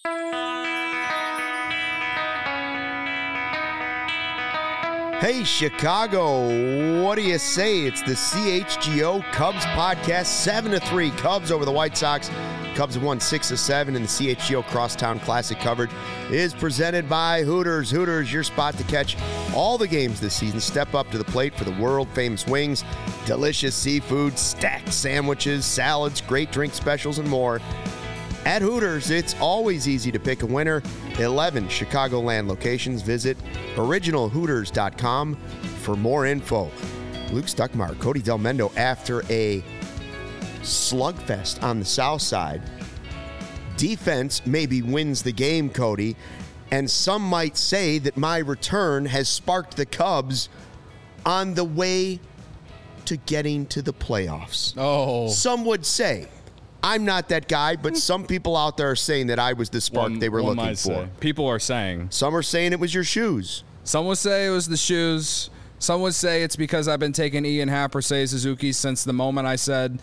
Hey, Chicago, what do you say? It's the CHGO Cubs podcast, 7-3 Cubs over the White Sox. Cubs have won 6 of 7, and the CHGO Crosstown Classic coverage is presented by Hooters. Hooters, your spot to catch all the games this season. Step up to the plate for the world-famous wings, delicious seafood, stacked sandwiches, salads, great drink specials, and more. At Hooters, it's always easy to pick a winner. 11 Chicagoland locations. Visit originalhooters.com for more info. Luke Stuckmeyer, Cody Del Mendo, after a slugfest on the south side. Defense maybe wins the game, Cody, and some might say that my return has sparked the Cubs on the way to getting to the playoffs. Oh. Some would say. I'm not that guy, but some people out there are saying that I was the spark they were looking for. Say. People are saying. Some are saying it was your shoes. Some would say it was the shoes. Some would say it's because I've been taking Ian Happ or Seiya Suzuki since the moment that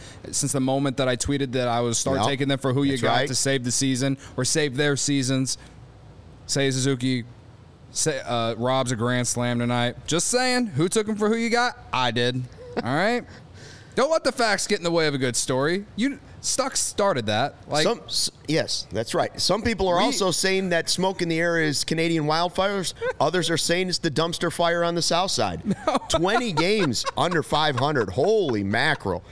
I tweeted that I would start taking them for who you got to save the season or save their seasons. Seiya Suzuki robs a grand slam tonight. Just saying, who took him for who you got? I did. All right? Don't let the facts get in the way of a good story. Stuck started that. Yes, that's right. Some people are also saying that smoke in the air is Canadian wildfires. Others are saying it's the dumpster fire on the south side. No. 20 games under 500. Holy mackerel.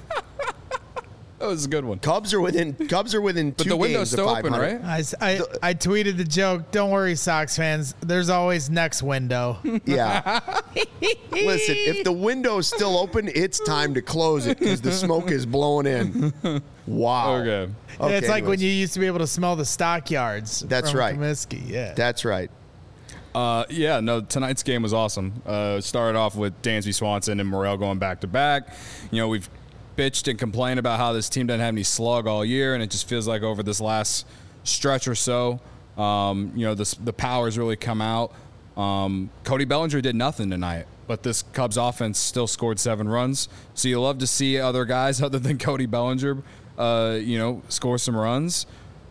That was a good one. Cubs are within but 2 the window's games of 500. still open, right? I tweeted the joke. Don't worry, Sox fans. There's always next window. Yeah. Listen, if the window's still open, it's time to close it because the smoke is blowing in. Wow. Okay. It's like when you used to be able to smell the stockyards. That's from right. Comiskey. Yeah. That's right. Tonight's game was awesome. Started off with Dansby Swanson and Morel going back to back. We've bitched and complained about how this team doesn't have any slug all year, and it just feels like over this last stretch or so, the power's really come out. Cody Bellinger did nothing tonight, but this Cubs offense still scored 7 runs. So you love to see other guys other than Cody Bellinger, score some runs.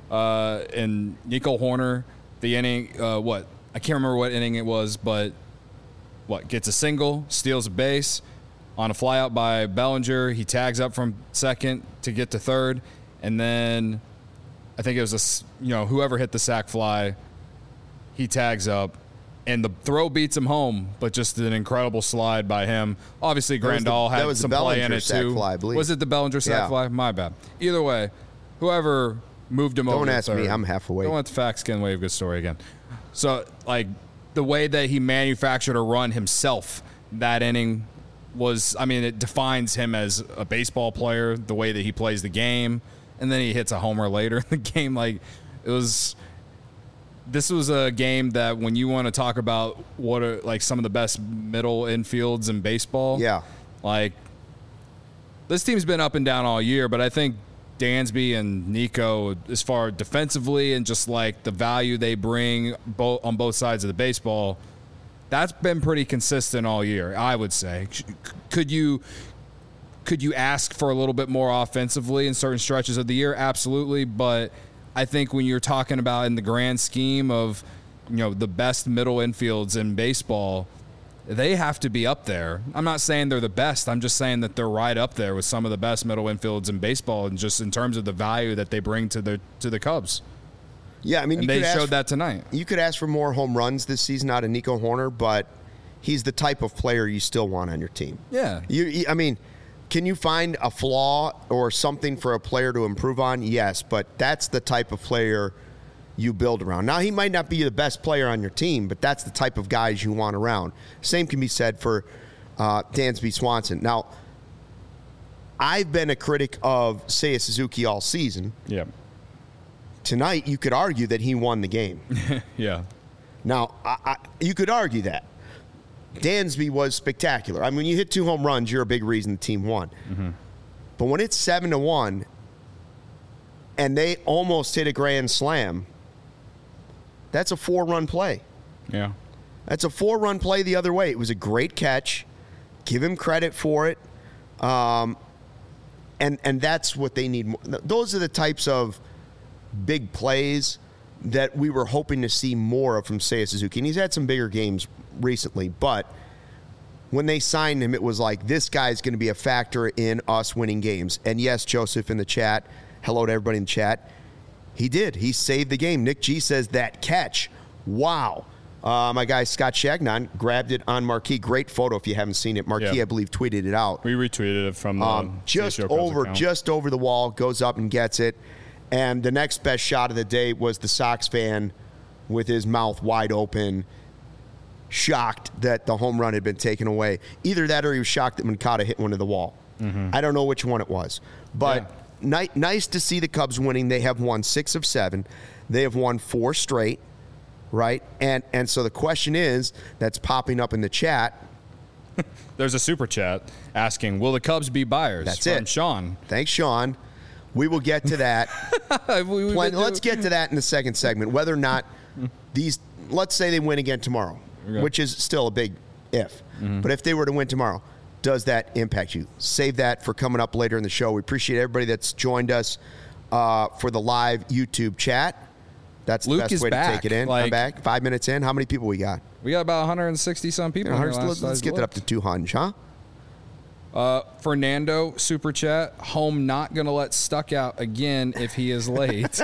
And Nico Hoerner, the inning, I can't remember what inning it was, but gets a single, steals a base. On a flyout by Bellinger, he tags up from second to get to third, and then I think it was whoever hit the sac fly, he tags up, and the throw beats him home, but just an incredible slide by him. Obviously, Grandal had some play in it too. Fly, I believe. Was it the Bellinger sac fly? My bad. Either way, whoever moved him over. Don't ask third, me. I'm half awake. Don't let the facts get in the way of a good story again. So, the way that he manufactured a run himself that inning it defines him as a baseball player, the way that he plays the game, and then he hits a homer later in the game. This was a game that when you want to talk about what are some of the best middle infields in baseball, this team's been up and down all year, but I think Dansby and Nico, as far defensively and just the value they bring on both sides of the baseball, that's been pretty consistent all year, I would say. Could you ask for a little bit more offensively in certain stretches of the year? Absolutely, but I think when you're talking about in the grand scheme of the best middle infields in baseball, they have to be up there. I'm not saying they're the best. I'm just saying that they're right up there with some of the best middle infields in baseball, and just in terms of the value that they bring to the Cubs. Yeah, they showed that tonight. You could ask for more home runs this season out of Nico Hoerner, but he's the type of player you still want on your team. Yeah. Can you find a flaw or something for a player to improve on? Yes, but that's the type of player you build around. Now, he might not be the best player on your team, but that's the type of guys you want around. Same can be said for Dansby Swanson. Now, I've been a critic of Seiya Suzuki all season. Yeah. Tonight, you could argue that he won the game. Yeah. Now, you could argue that. Dansby was spectacular. When you hit 2 home runs, you're a big reason the team won. Mm-hmm. But when it's 7-1 and they almost hit a grand slam, that's a 4-run play. Yeah. That's a 4-run play the other way. It was a great catch. Give him credit for it. And that's what they need. Those are the types of big plays that we were hoping to see more of from Seiya Suzuki. And he's had some bigger games recently, but when they signed him, it was like, this guy's going to be a factor in us winning games. And yes, Joseph in the chat, hello to everybody in the chat, he did. He saved the game. Nick G says that catch. Wow. My guy Scott Shagnon grabbed it on Marquee. Great photo if you haven't seen it. Marquee, I believe, tweeted it out. We retweeted it from the just over the wall, goes up and gets it. And the next best shot of the day was the Sox fan with his mouth wide open, shocked that the home run had been taken away. Either that or he was shocked that Moncada hit one to the wall. I don't know which one it was. But nice to see the Cubs winning. They have won 6 of 7. They have won 4 straight, right? And so the question is, that's popping up in the chat. There's a super chat asking, will the Cubs be buyers? That's from it. Sean. Thanks, Sean. We will get to that. Let's get to that in the second segment. Whether or not these, let's say they win again tomorrow, which is still a big if. But if they were to win tomorrow, does that impact you? Save that for coming up later in the show. We appreciate everybody that's joined us for the live YouTube chat. That's the best way to take it in. I'm back. 5 minutes in. How many people we got? We got about 160-some people. Let's get that up to 200, huh? Fernando, super chat. Home not going to let Stuck out again if he is late.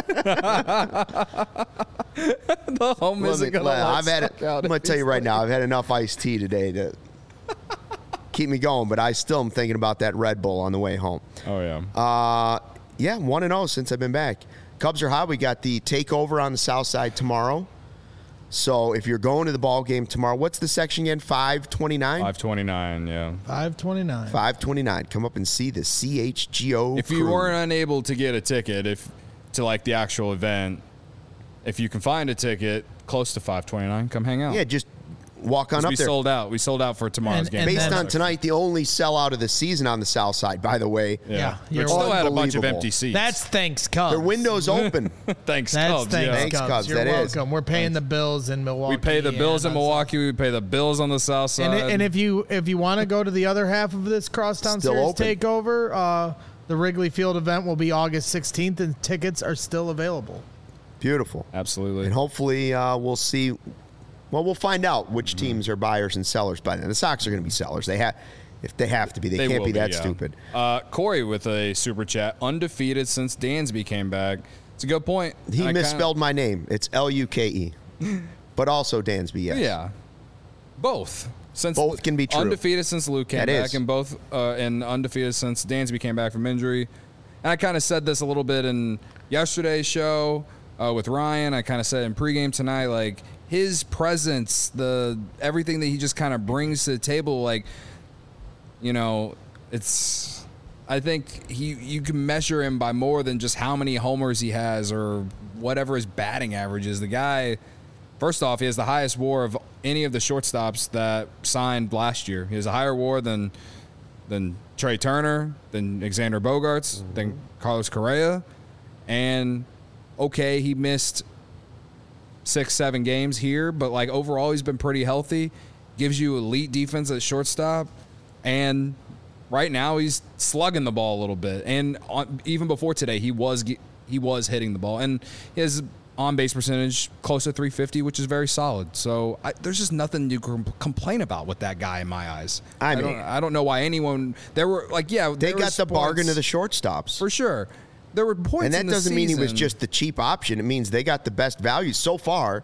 The home isn't going to let Stuck out. I'm going to tell you right now, I've had enough iced tea today to keep me going, but I still am thinking about that Red Bull on the way home. Oh, yeah. 1-0 since I've been back. Cubs are hot. We got the takeover on the south side tomorrow. So if you're going to the ball game tomorrow, what's the section again? 529? 529, yeah. 529. 529. Come up and see the CHGO If you weren't unable to get a ticket to like the actual event, if you can find a ticket close to 529, come hang out. Yeah, just walk on up there. We sold out for tomorrow's game. Based on tonight, the only sellout of the season on the south side, by the way. Yeah. We still had a bunch of empty seats. That's thanks, Cubs. Their window's open. Thanks, That's Cubs. thanks, Cubs. You're welcome. Is. We're paying the bills in Milwaukee. We pay the bills in Milwaukee. We pay the bills on the south side. And if you want to go to the other half of this Crosstown Still Series open. takeover, the Wrigley Field event will be August 16th, and tickets are still available. Beautiful. Absolutely. And hopefully we'll see. Well, we'll find out which teams are buyers and sellers by then. The Sox are going to be sellers. If they have to be. They can't be that stupid. Corey with a super chat. Undefeated since Dansby came back. It's a good point. He misspelled my name. It's Luke. But also Dansby, yes. Yeah. Both. Both can be true. Undefeated since Luke came back, and both and undefeated since Dansby came back from injury. And I kind of said this a little bit in yesterday's show with Ryan. I kind of said in pregame tonight, like, his presence, everything that he just kind of brings to the table, like, you know, it's. I think you can measure him by more than just how many homers he has or whatever his batting average is. The guy, first off, he has the highest WAR of any of the shortstops that signed last year. He has a higher WAR than Trey Turner, than Xander Bogaerts, than Carlos Correa, and okay, he missed 6-7 games here, but like overall he's been pretty healthy, gives you elite defense at shortstop, and right now he's slugging the ball a little bit, and even before today he was hitting the ball, and his on-base percentage close to 350, which is very solid. So there's just nothing you can complain about with that guy in my eyes. I don't know why anyone they got the bargain of the shortstops for sure. There were points, and that in the doesn't mean he was season. just the cheap option. It means they got the best value so far.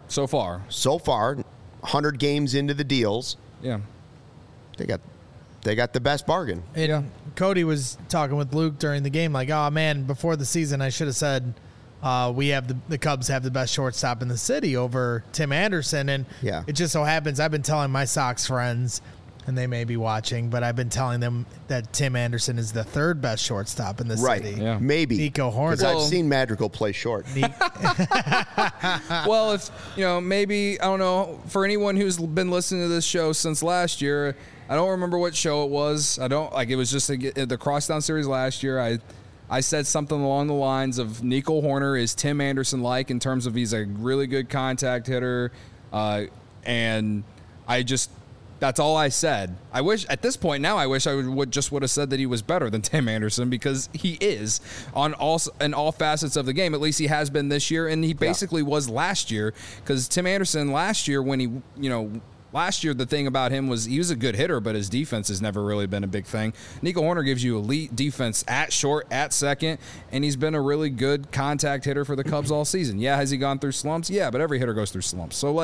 100 games into the deals. Yeah, they got the best bargain. And Cody was talking with Luke during the game, like, oh man, before the season I should have said the Cubs have the best shortstop in the city over Tim Anderson, and it just so happens I've been telling my Sox friends, and they may be watching, but I've been telling them that Tim Anderson is the third best shortstop in the city. Yeah. Maybe. Nico Horner. Because I've seen Madrigal play short. Well, if maybe, I don't know, for anyone who's been listening to this show since last year, I don't remember what show it was. It was just the Crosstown Series last year. I said something along the lines of Nico Horner is Tim Anderson-like in terms of he's a really good contact hitter, and That's all I said. I wish at this point now I wish I would have said that he was better than Tim Anderson, because he is in all facets of the game. At least he has been this year, and he basically was last year, because Tim Anderson last year last year, the thing about him was he was a good hitter, but his defense has never really been a big thing. Nico Hoerner gives you elite defense at short, at second, and he's been a really good contact hitter for the Cubs all season. Yeah, has he gone through slumps? Yeah, but every hitter goes through slumps. So,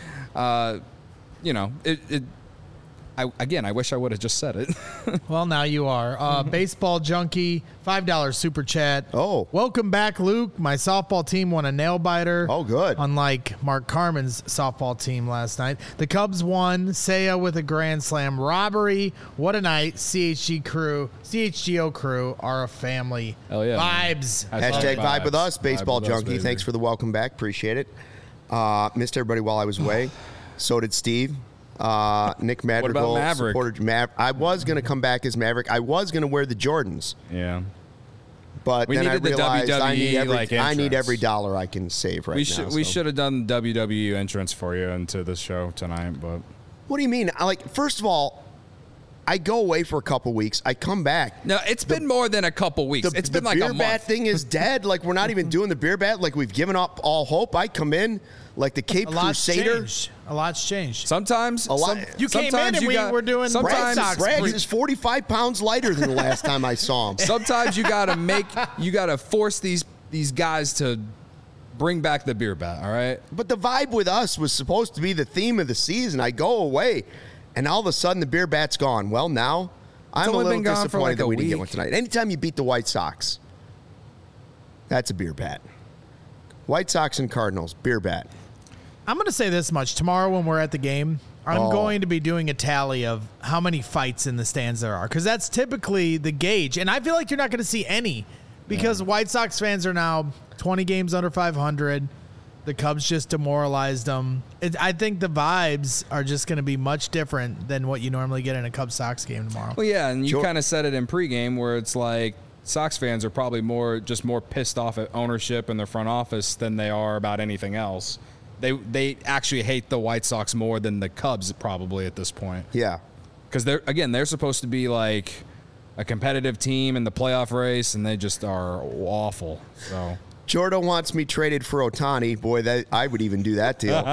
I wish I would have just said it. Well, now you are. Baseball Junkie, $5 super chat. Oh. Welcome back, Luke. My softball team won a nail-biter. Oh, good. Unlike Mark Carmen's softball team last night. The Cubs won. Seiya with a grand slam. Robbery. What a night. CHGO crew are a family. Hell yeah. Vibes. Hashtag vibe with us, Baseball Vibe with us, Junkie. baby. Thanks for the welcome back. Appreciate it. Missed everybody while I was away. So did Steve. Nick Madrigal. What about Maverick? I was going to come back as Maverick. I was going to wear the Jordans. Yeah. But We then I needed the realized I need WWE, I need entrance. every dollar I can save right now. We should have done the WWE entrance for you into the show tonight, but What do you mean? First of all, I go away for a couple weeks. I come back. no, it's been more than a couple weeks. It's been like a beer bat month. thing is dead. We're not even doing the beer bat. We've given up all hope. I come in like the Cape Crusader. A lot's changed. Sometimes You came in sometimes and you got- we're doing sometimes- Red Sox. Braggs is 45 pounds lighter than the last time I saw him. Sometimes you gotta force these guys to bring back the beer bat. All right. But the vibe with us was supposed to be the theme of the season. I go away, and all of a sudden the beer bat's gone. Well, now I'm a only little been gone for disappointed that a we didn't get week. one tonight. Anytime you beat the White Sox, that's a beer bat. White Sox and Cardinals, beer bat. I'm going to say this much. Tomorrow when we're at the game, I'm going to be doing a tally of how many fights in the stands there are, because that's typically the gauge. And I feel like you're not going to see any, because White Sox fans are now 20 games under 500. The Cubs just demoralized them. I think the vibes are just going to be much different than what you normally get in a Cubs-Sox game tomorrow. Well, yeah, and you Sure. kind of said it in pregame where it's like Sox fans are probably more pissed off at ownership and their front office than they are about anything else. They actually hate the White Sox more than the Cubs probably at this point. Yeah. Because they're supposed to be like a competitive team in the playoff race, and they just are awful. So Jordo wants me traded for Ohtani. Boy, that I would even do that deal.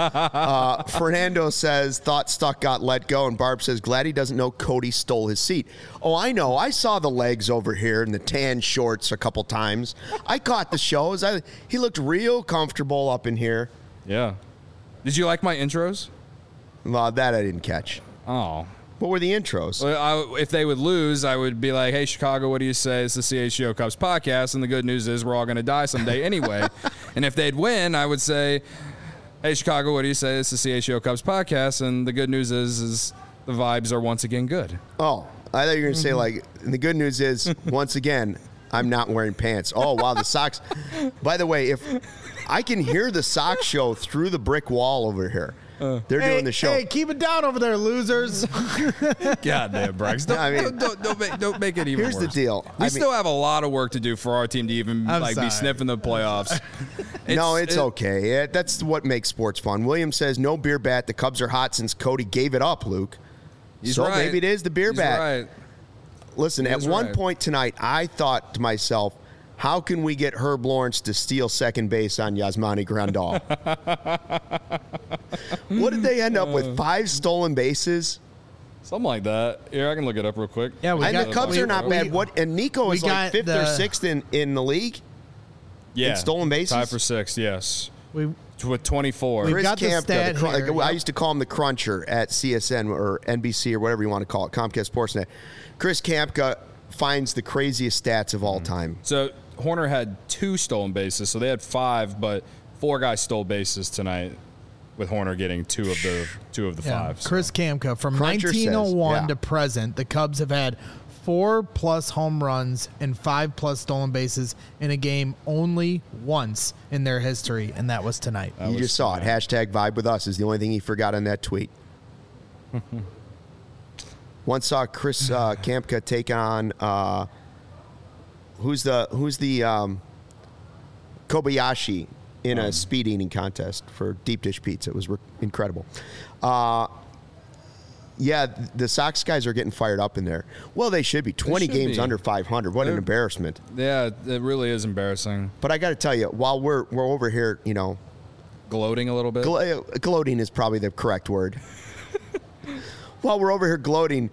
Fernando says, thought Stuck got let go. And Barb says, glad he doesn't know Cody stole his seat. Oh, I know. I saw the legs over here and the tan shorts a couple times. I caught the shows. He looked real comfortable up in here. yeah. Did you like my intros? Well, that I didn't catch. Oh. What were the intros? Well, if they would lose, I would be like, hey, Chicago, what do you say? It's the CHGO Cubs podcast, and the good news is we're all going to die someday anyway. And if they'd win, I would say, hey, Chicago, what do you say? It's the CHGO Cubs podcast, and the good news is the vibes are once again good. Oh, I thought you were going to say, and the good news is, once again, I'm not wearing pants. Oh, wow, the Sox. By the way, if I can hear the Sox show through the brick wall over here. They're doing the show. Hey, keep it down over there, losers. Goddamn, Braggs. Don't make it even Here's worse. the deal. We still have a lot of work to do for our team to even be sniffing the playoffs. It's okay. That's what makes sports fun. William says, no beer bat. The Cubs are hot since Cody gave it up, Luke. He's so right. maybe it is the beer He's bat. Right. Listen, at one point tonight, I thought to myself, how can we get Herb Lawrence to steal second base on Yasmani Grandal? What did they end up with? 5 stolen bases? Something like that. Here, I can look it up real quick. Yeah, And the Cubs are not bad. And Nico is like 5th or 6th in the league? Yeah. In stolen bases? Tied for 6th, yes. With 24. We've Chris got the Kampka, stat here, I yep. used to call him the Cruncher at CSN or NBC or whatever you want to call it, Comcast Sportsnet. Chris Kampka finds the craziest stats of all time. So Hoerner had 2 stolen bases, so they had 5, but 4 guys stole bases tonight, with Hoerner getting 2 of the 5. So. Chris Kampka, from Cruncher 1901 says, to present, the Cubs have had 4+ home runs and 5+ stolen bases in a game only once in their history, and that was tonight. You just saw it. Hashtag vibe with us is the only thing he forgot on that tweet. Once saw Chris Kampka take on who's the Kobayashi in a speed eating contest for deep dish pizza. It was incredible. Yeah, the Sox guys are getting fired up in there. Well, they should be. 20 games under 500. What an embarrassment. Yeah, it really is embarrassing. But I got to tell you, while we're over here, gloating a little bit. Gloating is probably the correct word. While we're over here gloating,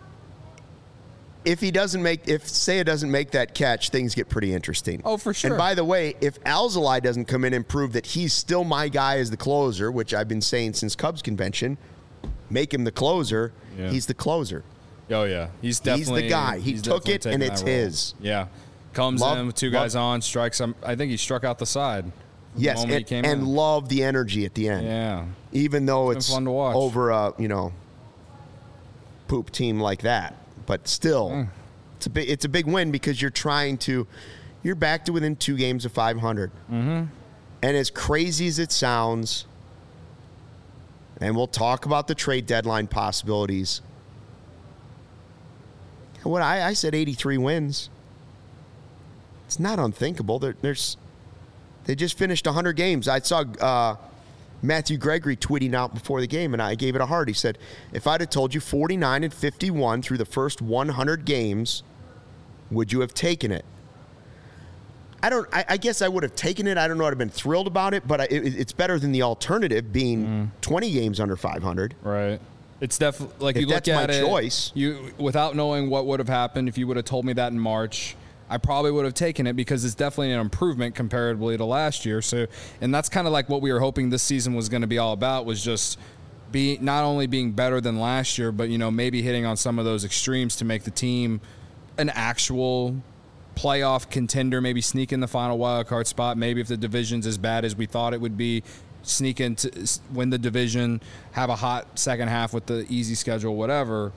if Seiya doesn't make that catch, things get pretty interesting. Oh, for sure. And by the way, if Alzolay doesn't come in and prove that he's still my guy as the closer, which I've been saying since Cubs convention, make him the closer. Yeah. He's the closer. Oh yeah, he's the guy. He took it and it's his. Yeah, comes in with two guys on, strikes him. I think he struck out the side. Yes, and love the energy at the end. Yeah, even though it's fun to watch over a poop team like that. But still, it's a big win because you're back to within 2 games of 500. Mm-hmm. And as crazy as it sounds, and we'll talk about the trade deadline possibilities. What I said 83 wins. It's not unthinkable. They just finished 100 games. I saw Matthew Gregory tweeting out before the game, and I gave it a heart. He said, if I'd have told you 49-51 through the first 100 games, would you have taken it? I guess I would have taken it. I don't know. I'd have been thrilled about it, but it's better than the alternative being 20 games under 500. Right. It's definitely like if you look at that's my choice. Without knowing what would have happened, if you would have told me that in March, I probably would have taken it because it's definitely an improvement comparatively to last year. So, and that's kind of like what we were hoping this season was going to be all about, was just not only being better than last year, but maybe hitting on some of those extremes to make the team an actual playoff contender, maybe sneak in the final wild card spot. Maybe if the division's as bad as we thought it would be, sneak in to win the division, have a hot second half with the easy schedule, whatever.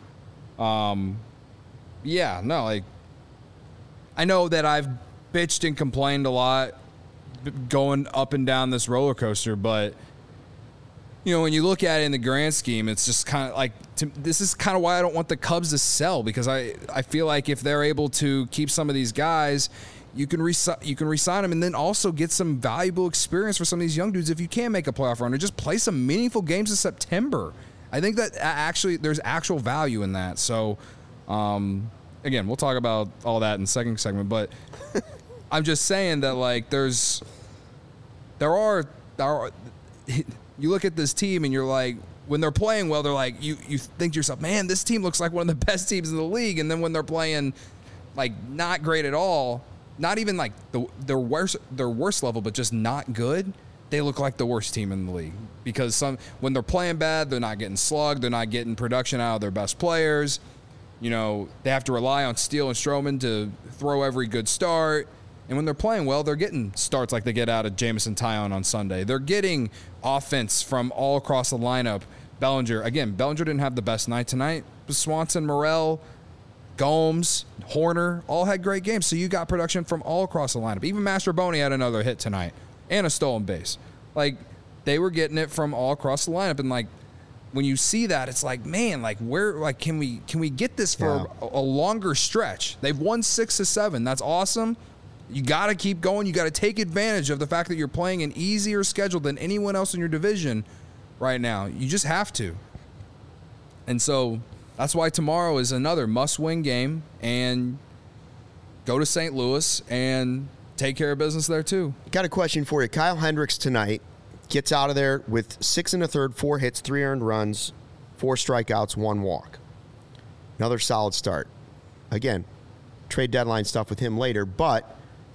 I know that I've bitched and complained a lot going up and down this roller coaster, but when you look at it in the grand scheme, it's just kind of like, this is kind of why I don't want the Cubs to sell, because I feel like if they're able to keep some of these guys, you can re-sign them and then also get some valuable experience for some of these young dudes if you can make a playoff run, or just play some meaningful games in September. I think that actually there's actual value in that. So, again, we'll talk about all that in the second segment, but I'm just saying that there are you look at this team and you're like, when they're playing well, they're like, you think to yourself, man, this team looks like one of the best teams in the league. And then when they're playing like not great at all, not even like their worst level, but just not good, they look like the worst team in the league. Because when they're playing bad, they're not getting slugged, they're not getting production out of their best players. They have to rely on Steele and Stroman to throw every good start. And when they're playing well, they're getting starts like they get out of Jameson Taillon on Sunday. They're getting offense from all across the lineup. Bellinger didn't have the best night tonight. But Swanson, Morel, Gomes, Horner all had great games. So you got production from all across the lineup. Even Mastroboni had another hit tonight and a stolen base. Like, they were getting it from all across the lineup. And, like, when you see that, it's like, man, like, where, like, can we get this for a longer stretch? They've won 6 of 7. That's awesome. You got to keep going. You got to take advantage of the fact that you're playing an easier schedule than anyone else in your division right now. You just have to. And so that's why tomorrow is another must-win game, and go to St. Louis and take care of business there too. Got a question for you. Kyle Hendricks tonight gets out of there with 6 1/3, 4 hits, 3 earned runs, 4 strikeouts, 1 walk. Another solid start. Again, trade deadline stuff with him later, but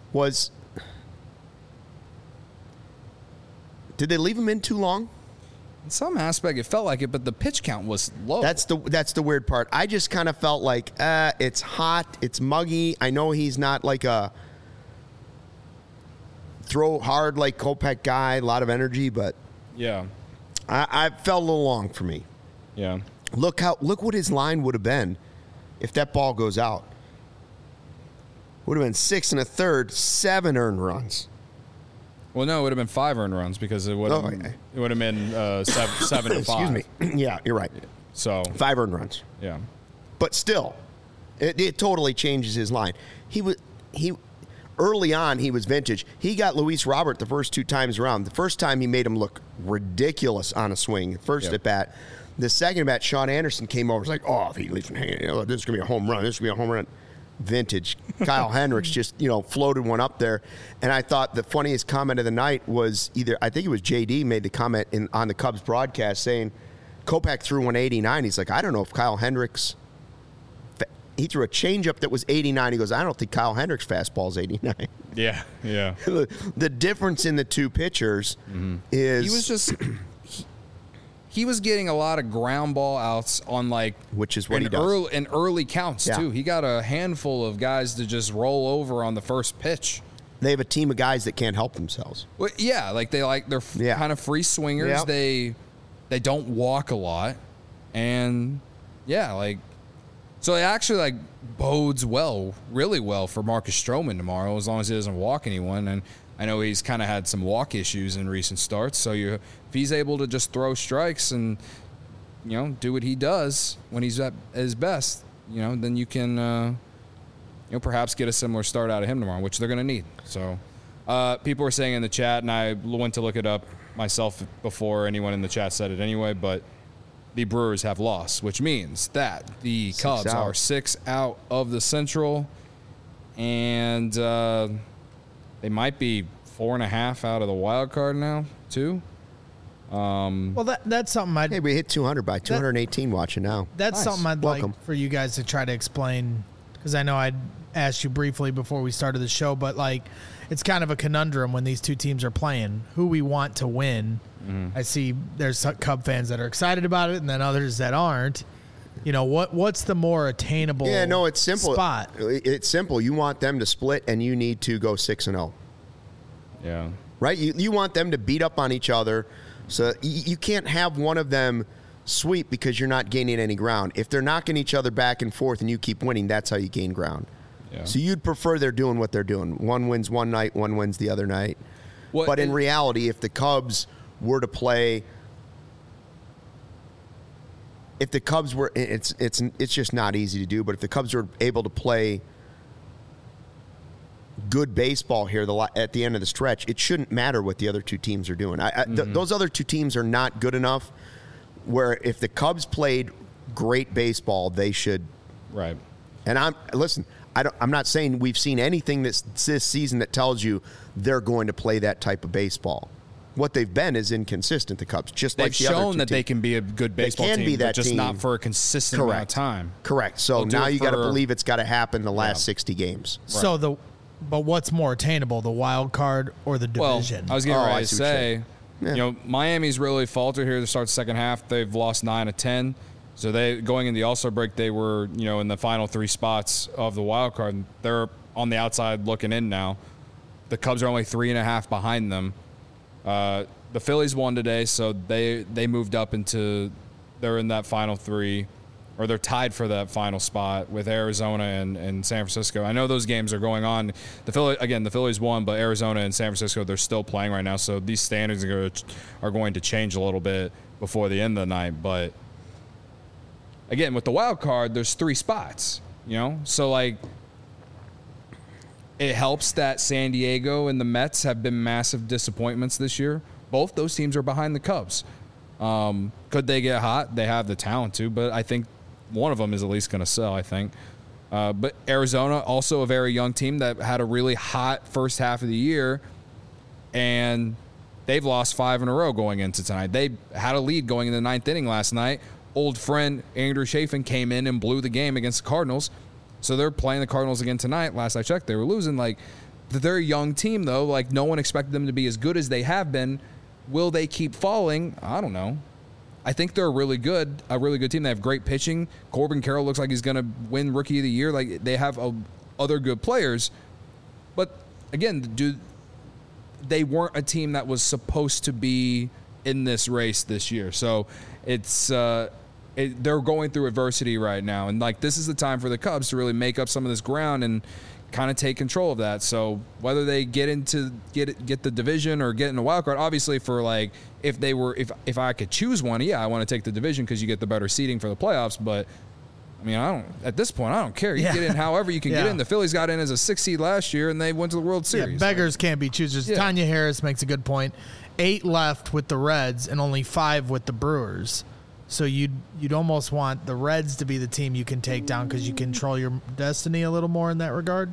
did they leave him in too long? In some aspect, it felt like it, but the pitch count was low. That's the weird part. I just kind of felt like it's hot, it's muggy. I know he's not like a throw hard like Kopech guy, a lot of energy, but yeah, I felt a little long for me. Yeah, look what his line would have been if that ball goes out. Would have been 6 1/3, 7 earned runs. Well, no, it would have been 5 earned runs because it would have been 7 to 5. Excuse me. Yeah, you're right. So 5 earned runs. Yeah, but still, it totally changes his line. He early on he was vintage. He got Luis Robert the first 2 times around. The first time he made him look ridiculous on a swing, first at bat. The second at bat, Sean Anderson came over. Was like, oh, if he leaves him hanging, this is gonna be a home run. This is gonna be a home run. Vintage. Kyle Hendricks just floated one up there, and I thought the funniest comment of the night was I think it was JD made the comment on the Cubs broadcast saying Kopech threw 189. He's like, I don't know if Kyle Hendricks. He threw a changeup that was 89. He goes, I don't think Kyle Hendricks' fastball is 89. Yeah. The difference in the two pitchers is he was just. He was getting a lot of ground ball outs on which is what he does in early counts too. He got a handful of guys to just roll over on the first pitch. They have a team of guys that can't help themselves. Well, yeah, they're kind of free swingers. Yep. They don't walk a lot, and so it actually bodes really well for Marcus Stroman tomorrow as long as he doesn't walk anyone. And I know he's kind of had some walk issues in recent starts. So if he's able to just throw strikes and, do what he does when he's at his best, then you can, perhaps get a similar start out of him tomorrow, which they're going to need. So people were saying in the chat, and I went to look it up myself before anyone in the chat said it anyway, but the Brewers have lost, which means that the Cubs are 6 out of the Central, and they might be 4.5 out of the wild card now, too. Well, that's something Hey, we hit 200 by 218 watching now. That's nice. something I'd Welcome. like for you guys to try to explain, because I know I'd asked you briefly before we started the show, but it's kind of a conundrum when these two teams are playing, who we want to win. I see there's some Cub fans that are excited about it and then others that aren't. What's the more attainable it's simple. spot? It's simple. You want them to split and you need to go 6-0. Yeah. Right? You want them to beat up on each other. So you can't have one of them sweep because you're not gaining any ground. If they're knocking each other back and forth and you keep winning, that's how you gain ground. Yeah. So you'd prefer they're doing what they're doing. One wins one night, one wins the other night. But in reality, if the Cubs were to play, it's just not easy to do. But if the Cubs were able to play good baseball here at the end of the stretch, it shouldn't matter what the other two teams are doing. Those other two teams are not good enough where if the Cubs played great baseball, they should. Right. And I'm not saying we've seen anything this season that tells you they're going to play that type of baseball. What they've been is inconsistent, the Cubs. Just like the other two teams. They've shown that they can be a good baseball team, but just not for a consistent amount of time. Correct. So now you got to believe it's got to happen the last 60 games. Right. So but what's more attainable, the wild card or the division? Well, I was getting ready to say, Miami's really faltered here to start the second half. They've lost 9 of 10. So they going in the All-Star break, they were in the final 3 spots of the wild card. They're on the outside looking in now. The Cubs are only 3.5 behind them. The Phillies won today, so they moved up they're in that final 3, or they're tied for that final spot with Arizona and San Francisco. I know those games are going on. The Phillies won, but Arizona and San Francisco, they're still playing right now. So these standings are going to change a little bit before the end of the night. But again, with the wild card, there's 3 spots. So it helps that San Diego and the Mets have been massive disappointments this year. Both those teams are behind the Cubs. Could they get hot? They have the talent to, but I think one of them is at least going to sell, I think. But Arizona, also a very young team that had a really hot first half of the year, and they've lost 5 in a row going into tonight. They had a lead going in the 9th inning last night. Old friend Andrew Chafin came in and blew the game against the Cardinals. So they're playing the Cardinals again tonight. Last I checked, they were losing. They're a young team, though. No one expected them to be as good as they have been. Will they keep falling? I don't know. I think they're a really good team. They have great pitching. Corbin Carroll looks like he's going to win Rookie of the Year. They have other good players. But, again, they weren't a team that was supposed to be in this race this year. So it's they're going through adversity right now. And, this is the time for the Cubs to really make up some of this ground and kind of take control of that. So whether they get the division or get in a wild card, obviously if I could choose one, I want to take the division because you get the better seeding for the playoffs. But at this point, I don't care. You get in however you can get in. The Phillies got in as a 6th seed last year and they went to the World Series. Yeah, beggars can't be choosers. Yeah. Tanya Harris makes a good point. 8 left with the Reds and only 5 with the Brewers. So you'd almost want the Reds to be the team you can take down because you control your destiny a little more in that regard?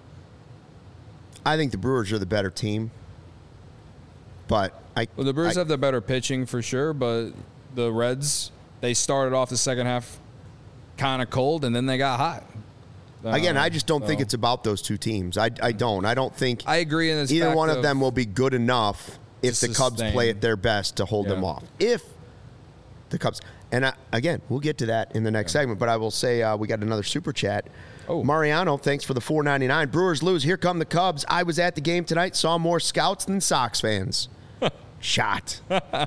I think the Brewers are the better team. But the Brewers have the better pitching for sure, but the Reds, they started off the second half kind of cold, and then they got hot. Again, I just don't think it's about those two teams. I don't. I don't think I agree in this either one of them will be good enough if the Cubs play at their best to hold them off. If the Cubs, and again, we'll get to that in the next segment, but I will say we got another super chat. Oh. Mariano, thanks for the $4.99. Brewers lose. Here come the Cubs. I was at the game tonight, saw more Scouts than Sox fans. Shot.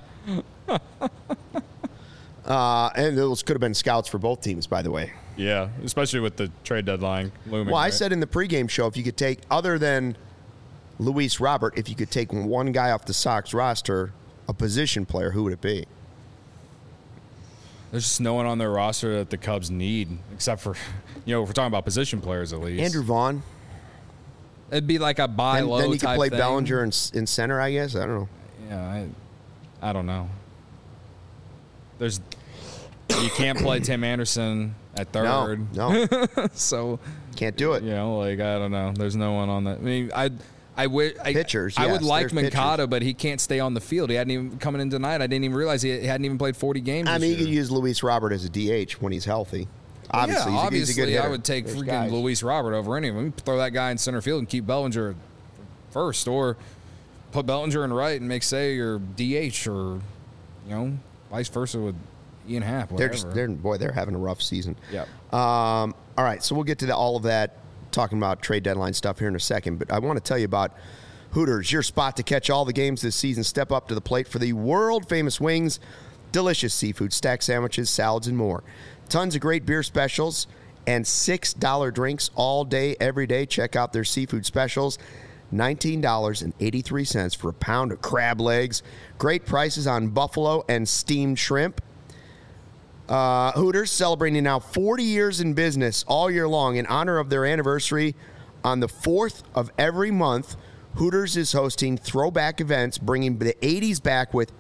And those could have been Scouts for both teams, by the way. Yeah, especially with the trade deadline looming. Well, I said in the pregame show, if you could take, other than Luis Robert, if you could take one guy off the Sox roster, a position player, who would it be? There's just no one on their roster that the Cubs need, except for, if we're talking about position players at least. Andrew Vaughn. It'd be like a buy low type Then you could play thing. Bellinger in center, I guess. I don't know. Yeah, I don't know. You can't play Tim Anderson at third. No. So can't do it. I don't know. There's no one on that. I mean, pitchers. I would yes, like Moncada, pitchers. but he can't stay on the field. He hadn't even coming in tonight. I didn't even realize he hadn't even played 40 games. I mean, this you year. could use Luis Robert as a DH when he's healthy. Obviously, yeah, he's a good hitter. I would take freaking Luis Robert over any of them. Throw that guy in center field and keep Bellinger first, or put Bellinger in right and make Say your DH, or vice versa with Ian Happ. They're having a rough season. Yeah. All right, so we'll get to all of that, talking about trade deadline stuff here in a second. But I want to tell you about Hooters, your spot to catch all the games this season. Step up to the plate for the world-famous wings, delicious seafood, stack sandwiches, salads, and more. Tons of great beer specials and $6 drinks all day, every day. Check out their seafood specials. $19.83 for a pound of crab legs. Great prices on buffalo and steamed shrimp. Hooters celebrating now 40 years in business all year long in honor of their anniversary. On the 4th of every month, Hooters is hosting throwback events, bringing the 80s back with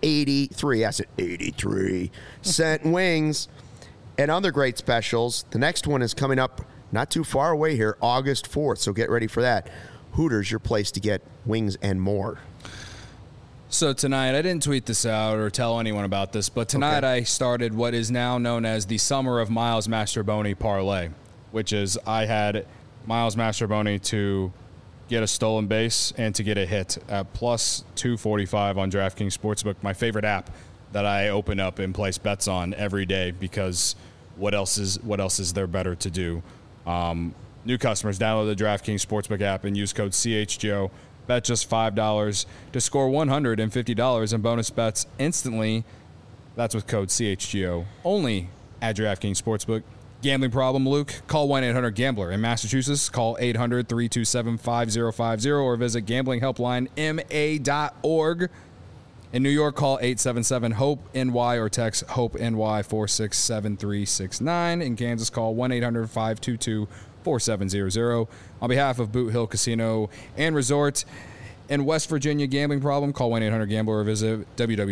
83-cent wings and other great specials. The next one is coming up not too far away here, August 4th, so get ready for that. Hooters, your place to get wings and more. So tonight, I didn't tweet this out or tell anyone about this, but tonight I started what is now known as the Summer of Miles Mastrobuoni Parlay, which is I had Miles Mastrobuoni to get a stolen base and to get a hit at plus 245 on DraftKings Sportsbook, my favorite app that I open up and place bets on every day, because what else is there better to do? New customers, download the DraftKings Sportsbook app and use code CHGO. Bet just $5 to score $150 in bonus bets instantly. That's with code CHGO. Only at DraftKings Sportsbook. Gambling problem, Luke? Call 1-800-GAMBLER. In Massachusetts, call 800-327-5050 or visit gamblinghelplinema.org. In New York, call 877-HOPE-NY or text HOPE-NY 467369. In Kansas, call 1-800-522-4700. On behalf of Boot Hill Casino and Resort in West Virginia, gambling problem, call 1-800-GAMBLER or visit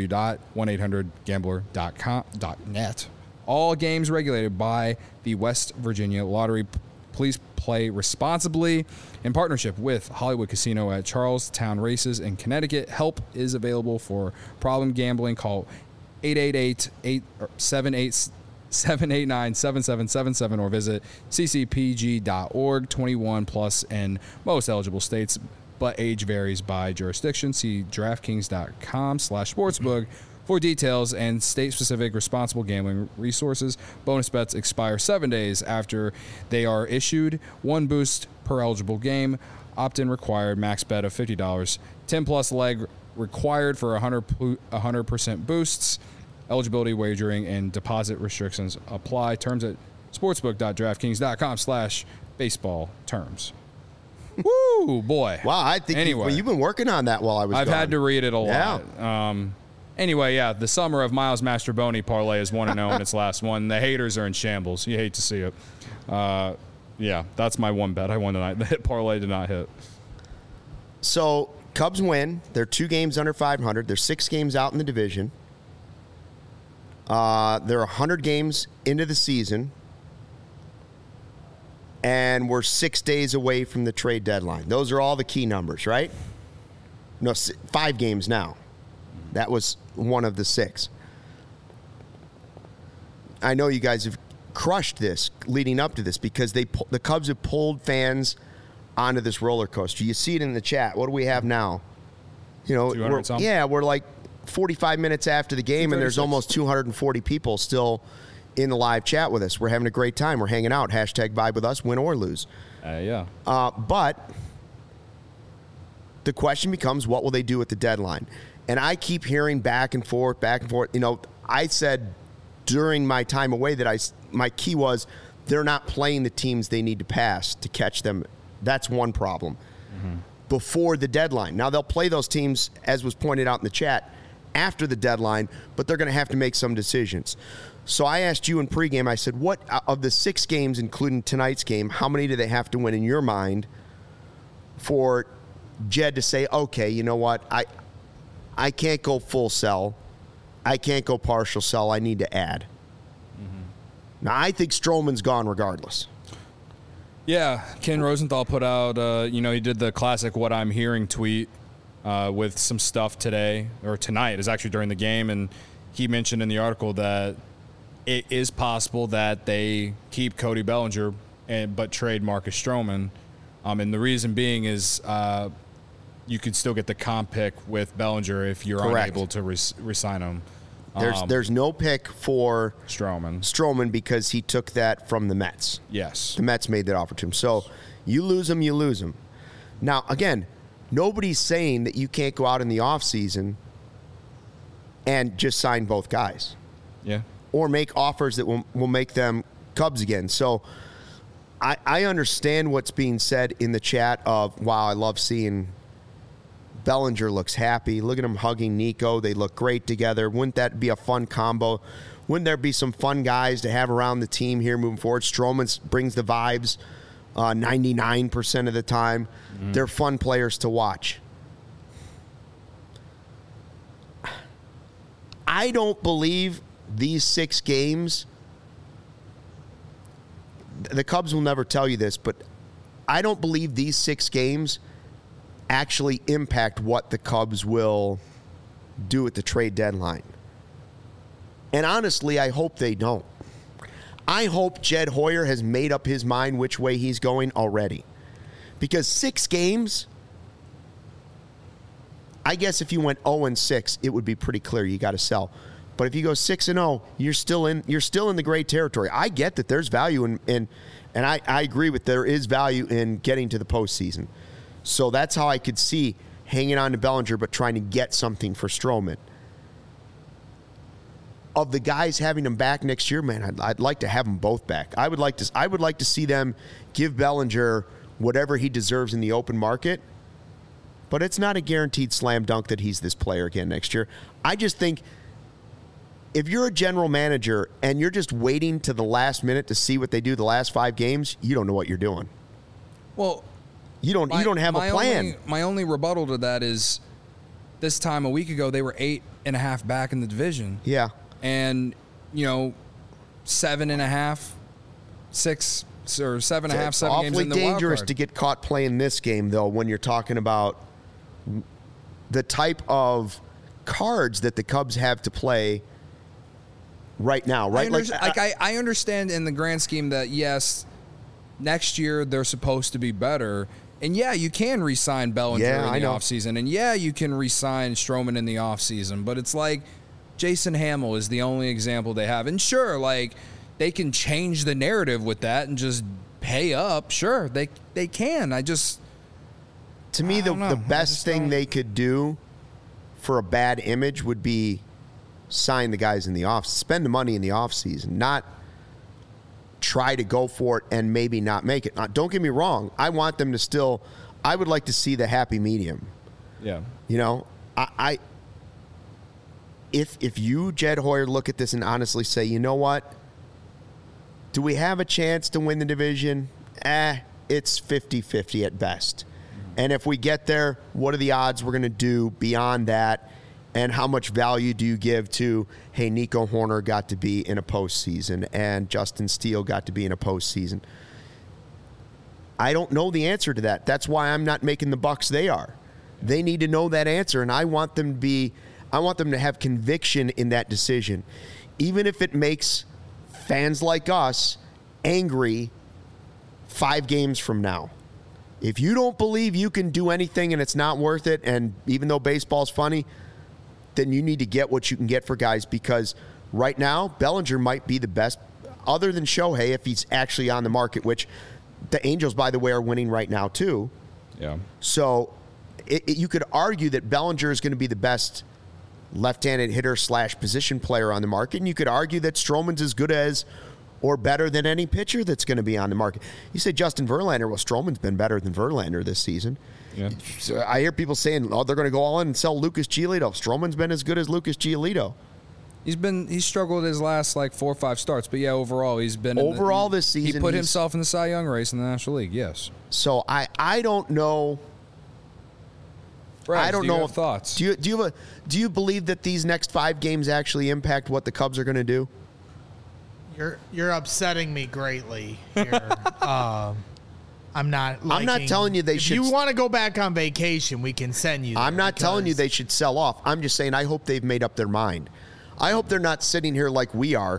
www.1800gambler.net. All games regulated by the West Virginia Lottery. Please play responsibly. In partnership with Hollywood Casino at Charlestown Races in Connecticut. Help is available for problem gambling. Call 888-789-7777 or visit ccpg.org. 21 plus in most eligible states, but age varies by jurisdiction. See DraftKings.com/sportsbook for details and state-specific responsible gambling resources. Bonus bets expire 7 days after they are issued. 1 boost per eligible game. Opt-in required. Max bet of $50. 10-plus leg required for 100% boosts. Eligibility, wagering, and deposit restrictions apply. Terms at sportsbook.draftkings.com/baseball terms. Woo, boy. Wow, I think you've been working on that while I was I've gone. had to read it a lot. Yeah. Anyway, yeah, the Summer of Miles Mastrobuoni Parlay is 1-0 in its last one. The haters are in shambles. You hate to see it. Yeah, that's my one bet I won tonight. The hit parlay did not hit. So, Cubs win. They're 2 games under 500. They're 6 games out in the division. They're 100 games into the season, and we're 6 days away from the trade deadline. Those are all the key numbers, right? No, 5 games now. That was one of the 6. I know you guys have crushed this leading up to this because the Cubs have pulled fans onto this roller coaster. You see it in the chat. What do we have now? We're like 45 minutes after the game, and there's almost 240 people still in the live chat with us. We're having a great time. We're hanging out. Hashtag vibe with us, win or lose. But the question becomes, what will they do at the deadline? And I keep hearing back and forth. I said during my time away that my key was they're not playing the teams they need to pass to catch them. That's one problem. Before the deadline. Now, they'll play those teams, as was pointed out in the chat, after the deadline, but they're going to have to make some decisions. So I asked you in pregame, I said, what of the 6 games, including tonight's game, how many do they have to win in your mind for Jed to say, okay, you know what, I can't go full sell. I can't go partial sell. I need to add. Now, I think Stroman's gone regardless. Yeah, Ken Rosenthal put out, he did the classic "What I'm Hearing" tweet with some stuff today, or tonight. It was actually during the game, and he mentioned in the article that it is possible that they keep Cody Bellinger but trade Marcus Stroman. And the reason being is you could still get the comp pick with Bellinger if you're unable to re-sign him. There's no pick for Stroman because he took that from the Mets. Yes. The Mets made that offer to him. So you lose him, you lose him. Now, again, nobody's saying that you can't go out in the offseason and just sign both guys. Yeah. Or make offers that will make them Cubs again. So I understand what's being said in the chat of, wow, I love seeing Bellinger looks happy. Look at him hugging Nico. They look great together. Wouldn't that be a fun combo? Wouldn't there be some fun guys to have around the team here moving forward? Stroman brings the vibes 99% of the time. They're fun players to watch. I don't believe these 6 games, the Cubs will never tell you this, but I don't believe these 6 games actually impact what the Cubs will do at the trade deadline. And honestly, I hope they don't. I hope Jed Hoyer has made up his mind which way he's going already. Because 6 games, I guess if you went 0-6, it would be pretty clear you got to sell. But if you go 6-0, you're still in the gray territory. I get that there's value in and I agree with there is value in getting to the postseason. So that's how I could see hanging on to Bellinger but trying to get something for Stroman. Of the guys having them back next year, man, I'd like to have them both back. I would like to see them give Bellinger whatever he deserves in the open market, but it's not a guaranteed slam dunk that he's this player again next year. I just think if you're a general manager and you're just waiting to the last minute to see what they do the last 5 games, you don't know what you're doing. Well, you don't have a plan. My only rebuttal to that is this time a week ago they were 8.5 back in the division. Yeah. And 7.5, 6 or 7.5, 7 games in the wild card. Awfully dangerous to get caught playing this game though when you're talking about the type of cards that the Cubs have to play right now, right? I understand in the grand scheme that yes, next year they're supposed to be better. And yeah, you can re-sign Bellinger in the offseason. And yeah, you can re-sign Stroman in the offseason. But it's like Jason Hamill is the only example they have. And sure, like they can change the narrative with that and just pay up. Sure, they can. To me, the best thing they could do for a bad image would be sign the guys in the off, spend the money in the offseason, not try to go for it and maybe not make it. Now, don't get me wrong. I want them to still – I would like to see the happy medium. Yeah. If you, Jed Hoyer, look at this and honestly say, you know what? Do we have a chance to win the division? It's 50-50 at best. And if we get there, what are the odds we're going to do beyond that? And how much value do you give to, hey, Nico Horner got to be in a postseason and Justin Steele got to be in a postseason? I don't know the answer to that. That's why I'm not making the Bucs they are. They need to know that answer, and I want them to have conviction in that decision. Even if it makes fans like us angry 5 games from now. If you don't believe you can do anything and it's not worth it, and even though baseball's funny, then you need to get what you can get for guys, because right now, Bellinger might be the best, other than Shohei, if he's actually on the market, which the Angels, by the way, are winning right now, too. Yeah. So you could argue that Bellinger is going to be the best left-handed hitter / position player on the market, and you could argue that Stroman's as good as or better than any pitcher that's going to be on the market. You say Justin Verlander, well, Stroman's been better than Verlander this season. Yeah. So I hear people saying, oh, they're going to go all in and sell Lucas Giolito. Stroman's been as good as Lucas Giolito. He's struggled his last 4 or 5 starts, but yeah, overall he's been this season. He put himself in the Cy Young race in the National League. Yes. So I don't know. Brad, I don't know. Have thoughts? Do you believe that these next 5 games actually impact what the Cubs are going to do? You're upsetting me greatly here. I'm not telling you they should. If you want to go back on vacation, we can send you. I'm not telling you they should sell off. I'm just saying I hope they've made up their mind. I hope they're not sitting here like we are,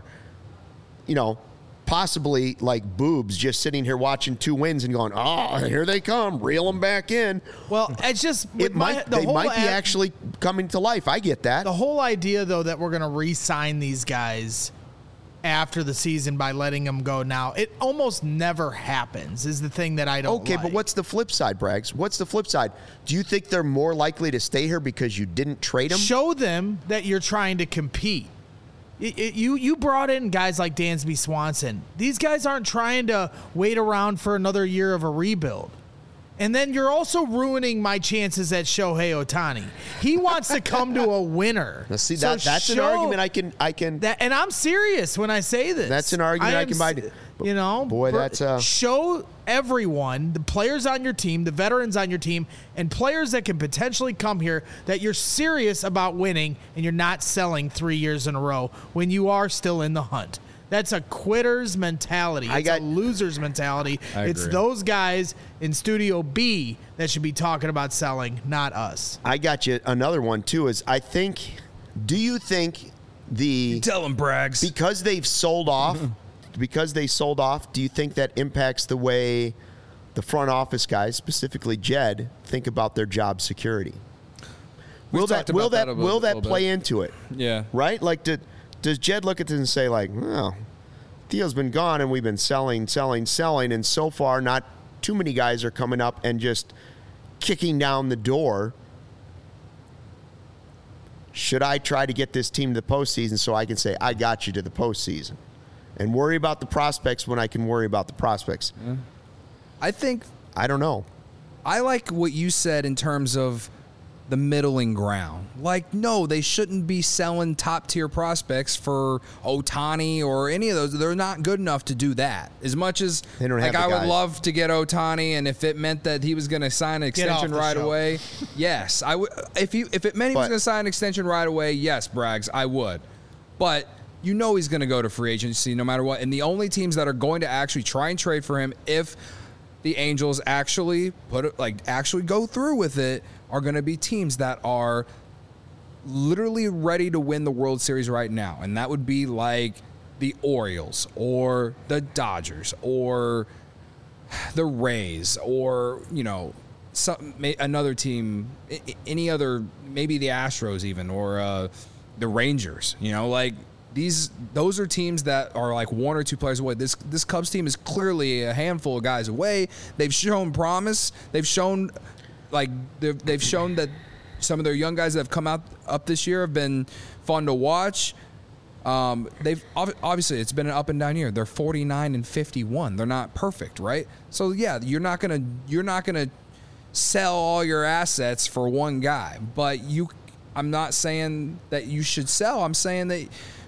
possibly like boobs, just sitting here watching 2 wins and going, oh, here they come, reel them back in. Well, it's just they might be actually coming to life. I get that. The whole idea, though, that we're going to re-sign these guys after the season by letting them go now, it almost never happens, is the thing that I don't like. But what's the flip side, Braggs? What's the flip side? Do you think they're more likely to stay here because you didn't trade them? Show them that you're trying to compete. You brought in guys like Dansby Swanson. These guys aren't trying to wait around for another year of a rebuild. And then you're also ruining my chances at Shohei Ohtani. He wants to come to a winner. Now, see, that's an argument I can. And I'm serious when I say this. That's an argument I can buy. Show everyone, the players on your team, the veterans on your team, and players that can potentially come here, that you're serious about winning and you're not selling 3 years in a row when you are still in the hunt. That's a quitter's mentality. It's a loser's mentality. It's those guys in Studio B that should be talking about selling, not us. I got you. Another one, too, is do you think you tell them, Braggs. Because they've sold off, do you think that impacts the way the front office guys, specifically Jed, think about their job security? Will that play into it? Yeah. Right? Does Jed look at this and say, Theo's been gone and we've been selling, and so far not too many guys are coming up and just kicking down the door? Should I try to get this team to the postseason so I can say, I got you to the postseason, and worry about the prospects when I can worry about the prospects? Yeah. I don't know. I like what you said in terms of the middling ground. No, they shouldn't be selling top-tier prospects for Ohtani or any of those. They're not good enough to do that. As much as they don't have I would love to get Ohtani, and if it meant that he was going to sign an extension right away, yes, I would. If it meant he was going to sign an extension right away, yes, Braggs, I would. But he's going to go to free agency no matter what. And the only teams that are going to actually try and trade for him, if the Angels actually actually go through with it, are going to be teams that are literally ready to win the World Series right now. And that would be like the Orioles or the Dodgers or the Rays or, another team, any other, maybe the Astros even, or the Rangers, those are teams that are 1 or 2 players away. This Cubs team is clearly a handful of guys away. They've shown promise. They've shown that some of their young guys that have come up this year have been fun to watch. They've obviously, it's been an up and down year. They're 49-51. They're not perfect, right? So yeah, you're not gonna sell all your assets for one guy. But I'm not saying that you should sell. I'm saying that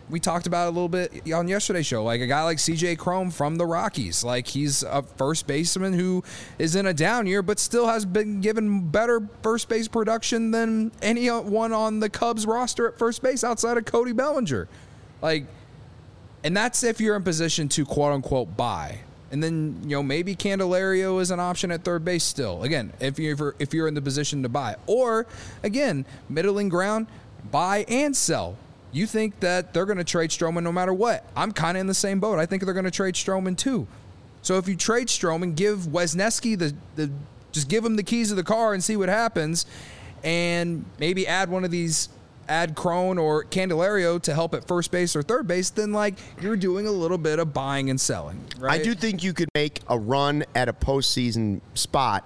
we talked about it a little bit on yesterday's show. Like a guy like CJ Cron from the Rockies. Like he's a first baseman who is in a down year, but still has been given better first base production than anyone on the Cubs roster at first base outside of Cody Bellinger. Like, and that's if you're in position to quote unquote buy. And then, maybe Candelario is an option at third base still. Again, if you're in the position to buy. Or, again, middling ground, buy and sell. You think that they're going to trade Stroman no matter what. I'm kind of in the same boat. I think they're going to trade Stroman too. So if you trade Stroman, give Wesneski just give him the keys of the car and see what happens. And maybe add Cron or Candelario to help at first base or third base, then you're doing a little bit of buying and selling, right? I do think you could make a run at a postseason spot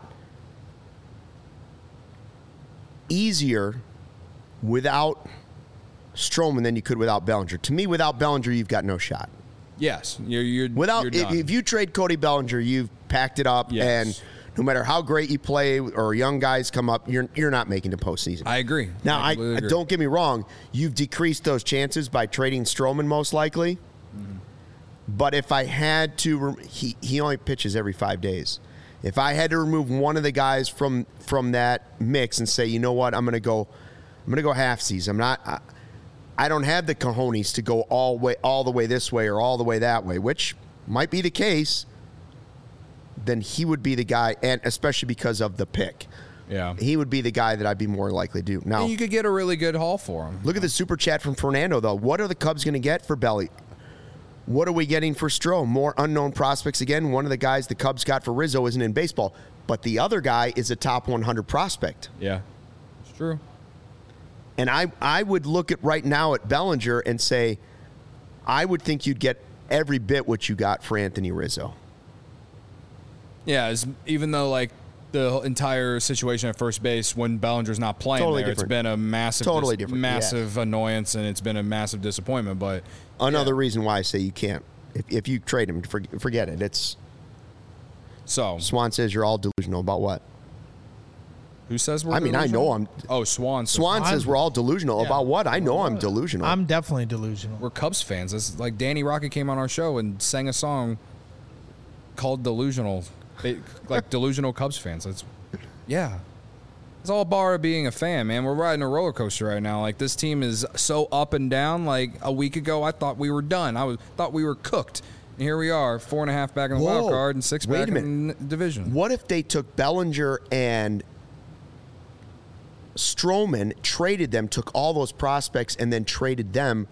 easier without Stroman than you could without Bellinger. To me, without Bellinger, you've got no shot. Yes, you're without. You're done. If you trade Cody Bellinger, you've packed it up, and no matter how great you play or young guys come up, you're not making the postseason. I agree. Now, I agree. Don't get me wrong. You've decreased those chances by trading Stroman most likely. Mm-hmm. But if I had to, he only pitches every 5 days. If I had to remove one of the guys from that mix and say, you know what, I'm going to go half season. I don't have the cojones to go all the way this way or all the way that way, which might be the case. Then he would be the guy, and especially because of the pick. Yeah. He would be the guy that I'd be more likely to do. Now, and you could get a really good haul for him. Look at the super chat from Fernando, though. What are the Cubs going to get for Belly? What are we getting for Stroh? More unknown prospects again. One of the guys the Cubs got for Rizzo isn't in baseball, but the other guy is a top 100 prospect. Yeah, it's true. And I would look at right now at Bellinger and say, I would think you'd get every bit what you got for Anthony Rizzo. Yeah, even though the entire situation at first base when Bellinger's not playing totally there, different. it's been a massive annoyance and it's been a massive disappointment. But another reason why I say you can't. If you trade him, forget it. It's so Swan says you're all delusional about what? Who says we're delusional? I know I'm. Oh, Swan. Swan says we're all delusional about what? I know I'm delusional. I'm definitely delusional. We're Cubs fans. It's like Danny Rocket came on our show and sang a song called "Delusional." Delusional Cubs fans. It's all a bar of being a fan, man. We're riding a roller coaster right now. This team is so up and down. A week ago, I thought we were done. Thought we were cooked. And here we are, 4.5 back in the wild card and 6 back in the division. What if they took Bellinger and Stroman, traded them, took all those prospects, and then traded them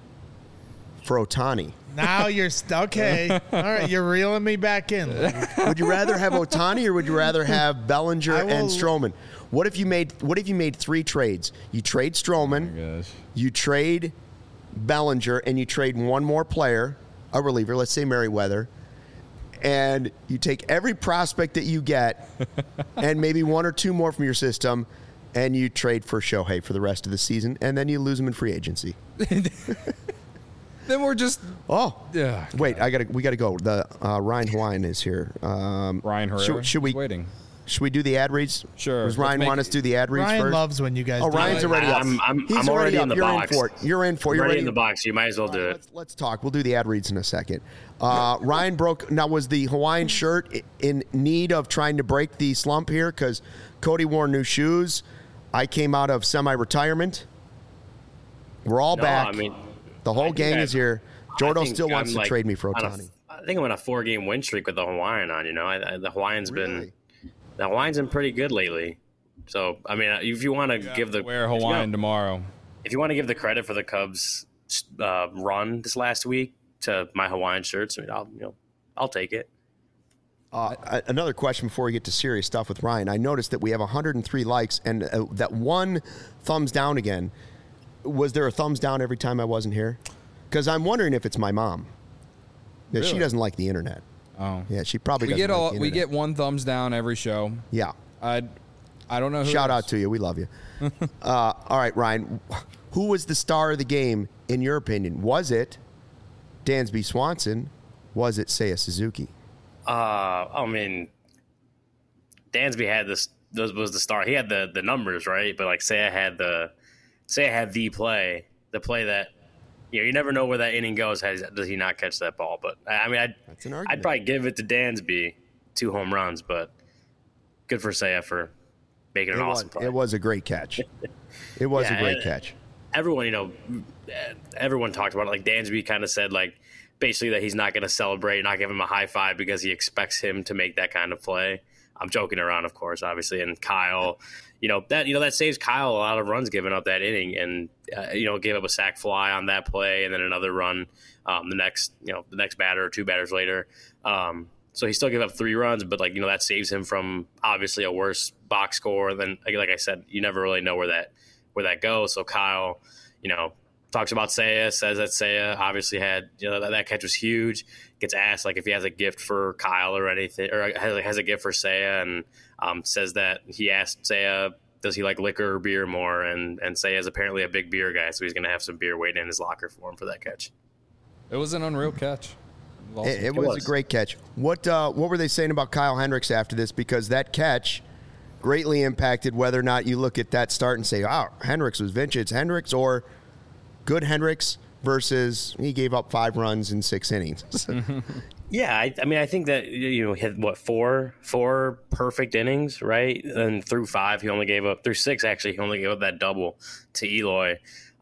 for Ohtani? Now you're okay. All right, you're reeling me back in. Would you rather have Ohtani or would you rather have Bellinger and Stroman? What if you made 3 trades? You trade Stroman, you trade Bellinger, and you trade one more player, a reliever, let's say Merriweather, and you take every prospect that you get and maybe 1 or 2 more from your system, and you trade for Shohei for the rest of the season, and then you lose him in free agency. Then we're just wait. We gotta go. The Ryan Hawaiian is here. Ryan Herrera. Should we waiting? Should we do the ad reads? Sure. Does Ryan want us to do the ad reads Ryan first? loves when you guys. Oh, Ryan's already up. I'm already in the box. You're in for it. You're already in the box. You might as well do it. Let's talk. We'll do the ad reads in a second. Ryan broke. Now, was the Hawaiian shirt in need of trying to break the slump here? Because Cody wore new shoes. I came out of semi-retirement. We're all back. The whole gang is here. Jordo still wants to trade me for Ohtani. I think I'm on a 4-game win streak with the Hawaiian on. The Hawaiian's been pretty good lately. So if you want to give the wear Hawaiian tomorrow, if you want to give the credit for the Cubs run this last week to my Hawaiian shirts, I'll take it. Another question before we get to serious stuff with Ryan. I noticed that we have 103 likes and that one thumbs down again. Was there a thumbs down every time I wasn't here? Because I'm wondering if it's my mom. Yeah, really? She doesn't like the internet. Oh, yeah, she probably doesn't like the internet. We get 1 thumbs down every show. Yeah, I don't know. Shout out to you. We love you. All right, Ryan. Who was the star of the game in your opinion? Was it Dansby Swanson? Was it Seiya Suzuki? Dansby had was the star. He had the numbers, right? But Seiya had the play that you never know where that inning goes. Does he not catch that ball? But I mean, I'd probably give it to Dansby, 2 home runs, but good for Seiya for making an awesome play. It was a great catch. It was a great catch. Everyone talked about it. Like Dansby kind of said, like basically that he's not going to celebrate, not give him a high five because he expects him to make that kind of play. I'm joking around, of course, obviously. And Kyle, that saves Kyle a lot of runs giving up that inning, and gave up a sac fly on that play, and then another run the next batter or 2 batters later. So he still gave up 3 runs, but that saves him from obviously a worse box score. Then, like I said, you never really know where that goes. So Kyle, talks about Seiya, says that Seiya obviously had, that catch was huge. Gets asked if he has a gift for Kyle or anything, or has a gift for Seiya, and says that he asked Seiya, does he like liquor or beer more? And Seiya is apparently a big beer guy, so he's going to have some beer waiting in his locker for him for that catch. It was an unreal catch. It was a great catch. What were they saying about Kyle Hendricks after this? Because that catch greatly impacted whether or not you look at that start and say, "Oh, Hendricks was vintage Hendricks," or good Hendricks versus he gave up 5 runs in 6 innings. Yeah, I think that hit 4 perfect innings, right? And through 5, he only gave up through 6. Actually, he only gave up that double to Eloy.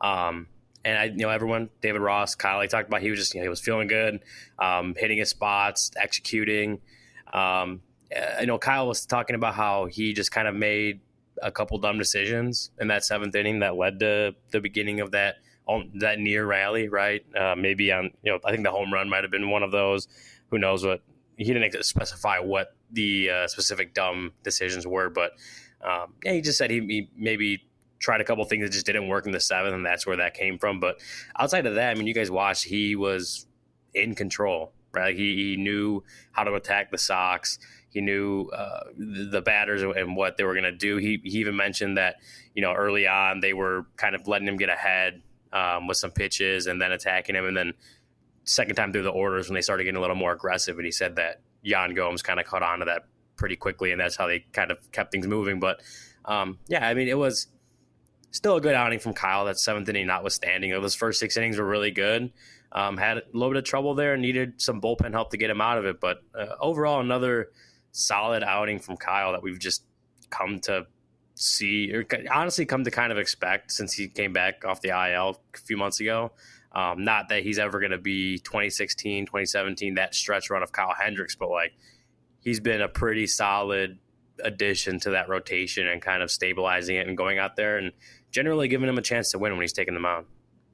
And everyone, David Ross, Kyle, he talked about he was just he was feeling good, hitting his spots, executing. Kyle was talking about how he just kind of made a couple dumb decisions in that 7th inning that led to the beginning of that near rally, right? Maybe I think the home run might have been one of those. Who knows what? He didn't specify what the specific dumb decisions were, but he just said he maybe tried a couple things that just didn't work in the 7th, and that's where that came from. But outside of that, I mean, you guys watched, he was in control, right? He knew how to attack the Sox. He knew the batters and what they were going to do. He even mentioned that, early on they were kind of letting him get ahead with some pitches and then attacking him. And then second time through the orders when they started getting a little more aggressive. And he said that Yan Gomes kind of caught on to that pretty quickly, and that's how they kind of kept things moving. But, it was still a good outing from Kyle, that 7th inning notwithstanding. Those first 6 innings were really good. Had a little bit of trouble there, needed some bullpen help to get him out of it. But overall, another solid outing from Kyle that we've just come to see, or honestly come to kind of expect since he came back off the IL a few months ago. Not that he's ever going to be 2016, 2017, that stretch run of Kyle Hendricks, but he's been a pretty solid addition to that rotation and kind of stabilizing it and going out there and generally giving him a chance to win when he's taking the mound.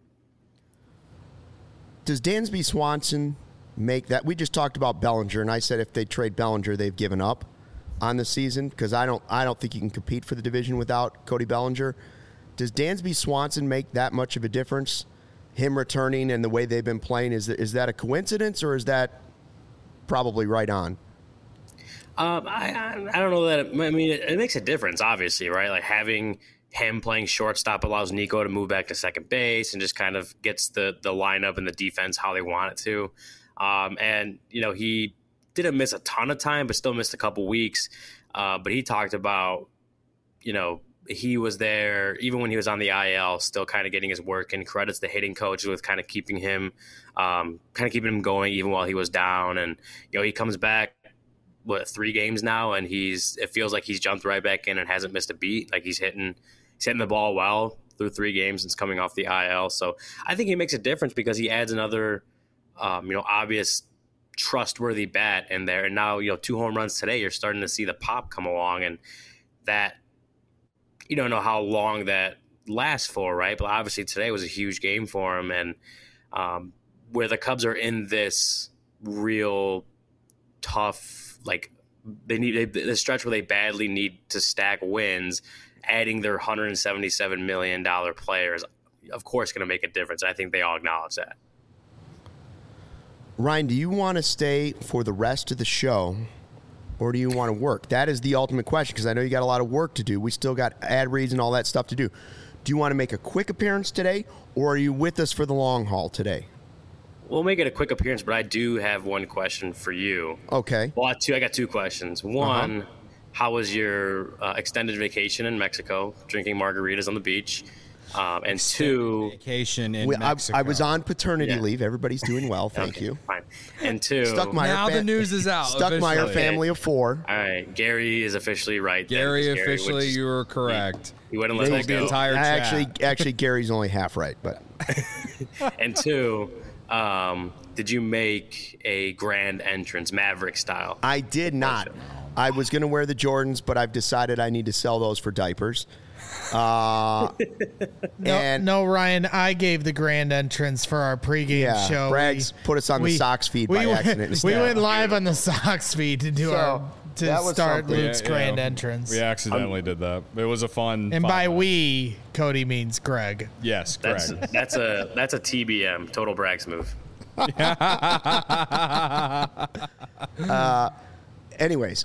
Does Dansby Swanson make that? We just talked about Bellinger, and I said if they trade Bellinger, they've given up on the season because I don't think you can compete for the division without Cody Bellinger. Does Dansby Swanson make that much of a difference? Him returning and the way they've been playing, is that a coincidence or is that probably right on? I don't know that. It makes a difference, obviously, right? Like having him playing shortstop allows Nico to move back to second base and just kind of gets the lineup and the defense how they want it to. He didn't miss a ton of time, but still missed a couple weeks. But he talked about, he was there even when he was on the IL, still kind of getting his work, and credits the hitting coaches with kind of keeping him going even while he was down. And, he comes back, 3 games now, and it feels like he's jumped right back in and hasn't missed a beat. Like he's hitting the ball well through 3 games since coming off the IL. So I think he makes a difference because he adds another, obvious trustworthy bat in there. And now, 2 home runs today, you're starting to see the pop come along, and that, you don't know how long that lasts for, right? But obviously today was a huge game for him. And where the Cubs are in this real tough, the stretch where they badly need to stack wins, adding their $177 million players, of course, going to make a difference. I think they all acknowledge that. Ryan, do you want to stay for the rest of the show, or do you want to work? That is the ultimate question, because I know you got a lot of work to do. We still got ad reads and all that stuff to do. Do you want to make a quick appearance today, or are you with us for the long haul today? We'll make it a quick appearance, but I do have one question for you. Okay. Well, I got 2 questions. One, How was your extended vacation in Mexico, drinking margaritas on the beach? And two, vacation in Mexico. I was on paternity leave. Everybody's doing well. Thank you. Fine. And two, Stuckmeyer the news is out. Stuckmeyer family of 4. All right, Gary is officially right. Gary officially, you were correct. You wouldn't let that the go. entire chat. Actually, Gary's only half right, but. And two, did you make a grand entrance, Maverick style? I did not. I was going to wear the Jordans, but I've decided I need to sell those for diapers. No, Ryan, I gave the grand entrance for our pregame show. Brags put us on the Sox feed by accident. We went live on the Sox feed to start Luke's grand entrance. We accidentally did that. It was a fun. And by we, Cody means Greg. Yes, Greg. That's a TBM, total Brags move. Anyways,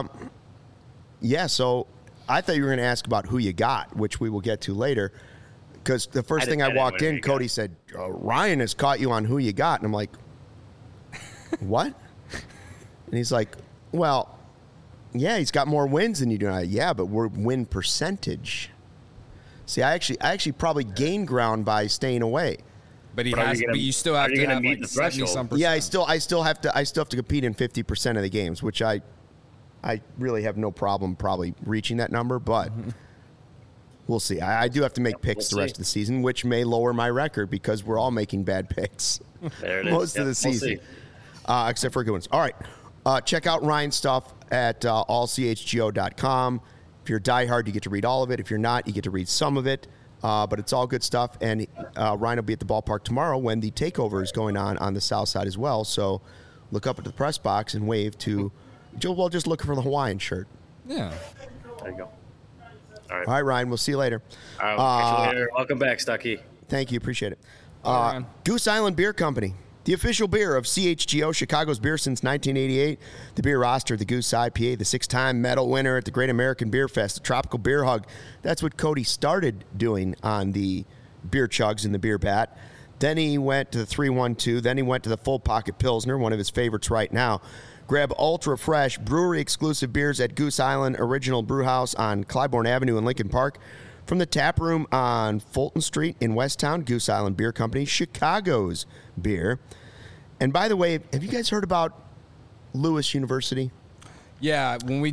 so I thought you were going to ask about who you got, which we will get to later. Because the first thing I walked in, Cody said, Ryan has caught you on who you got. And I'm like, what? And he's like, well, yeah, he's got more wins than you do. Yeah, but we're win percentage. See, I actually probably gained ground by staying away. But you still have to have like 70-some%. Yeah, I still have to compete in 50% of the games, which I really have no problem probably reaching that number, but we'll see. I do have to make picks the rest of the season, which may lower my record because we're all making bad picks most of the season, except for good ones. All right, check out Ryan's stuff at allchgo.com. If you're a diehard, you get to read all of it. If you're not, you get to read some of it. But it's all good stuff, and Ryan will be at the ballpark tomorrow when the takeover is going on the south side as well. So look up at the press box and wave to Joe. Well, just look for the Hawaiian shirt. Yeah. There you go. All right, Ryan. We'll see you later. All right, we'll catch you later. Welcome back, Stucky. Thank you. Appreciate it. Goose Island Beer Company, the official beer of CHGO, Chicago's beer since 1988. The beer roster, the Goose IPA, the 6-time medal winner at the Great American Beer Fest, the Tropical Beer Hug. That's what Cody started doing on the beer chugs and the beer bat. Then he went to the 312. Then he went to the Full Pocket Pilsner, one of his favorites right now. Grab ultra fresh brewery exclusive beers at Goose Island Original Brew House on Clybourne Avenue in Lincoln Park. From the tap room on Fulton Street in Westtown, Goose Island Beer Company, Chicago's beer. And by the way, have you guys heard about Lewis University? Yeah,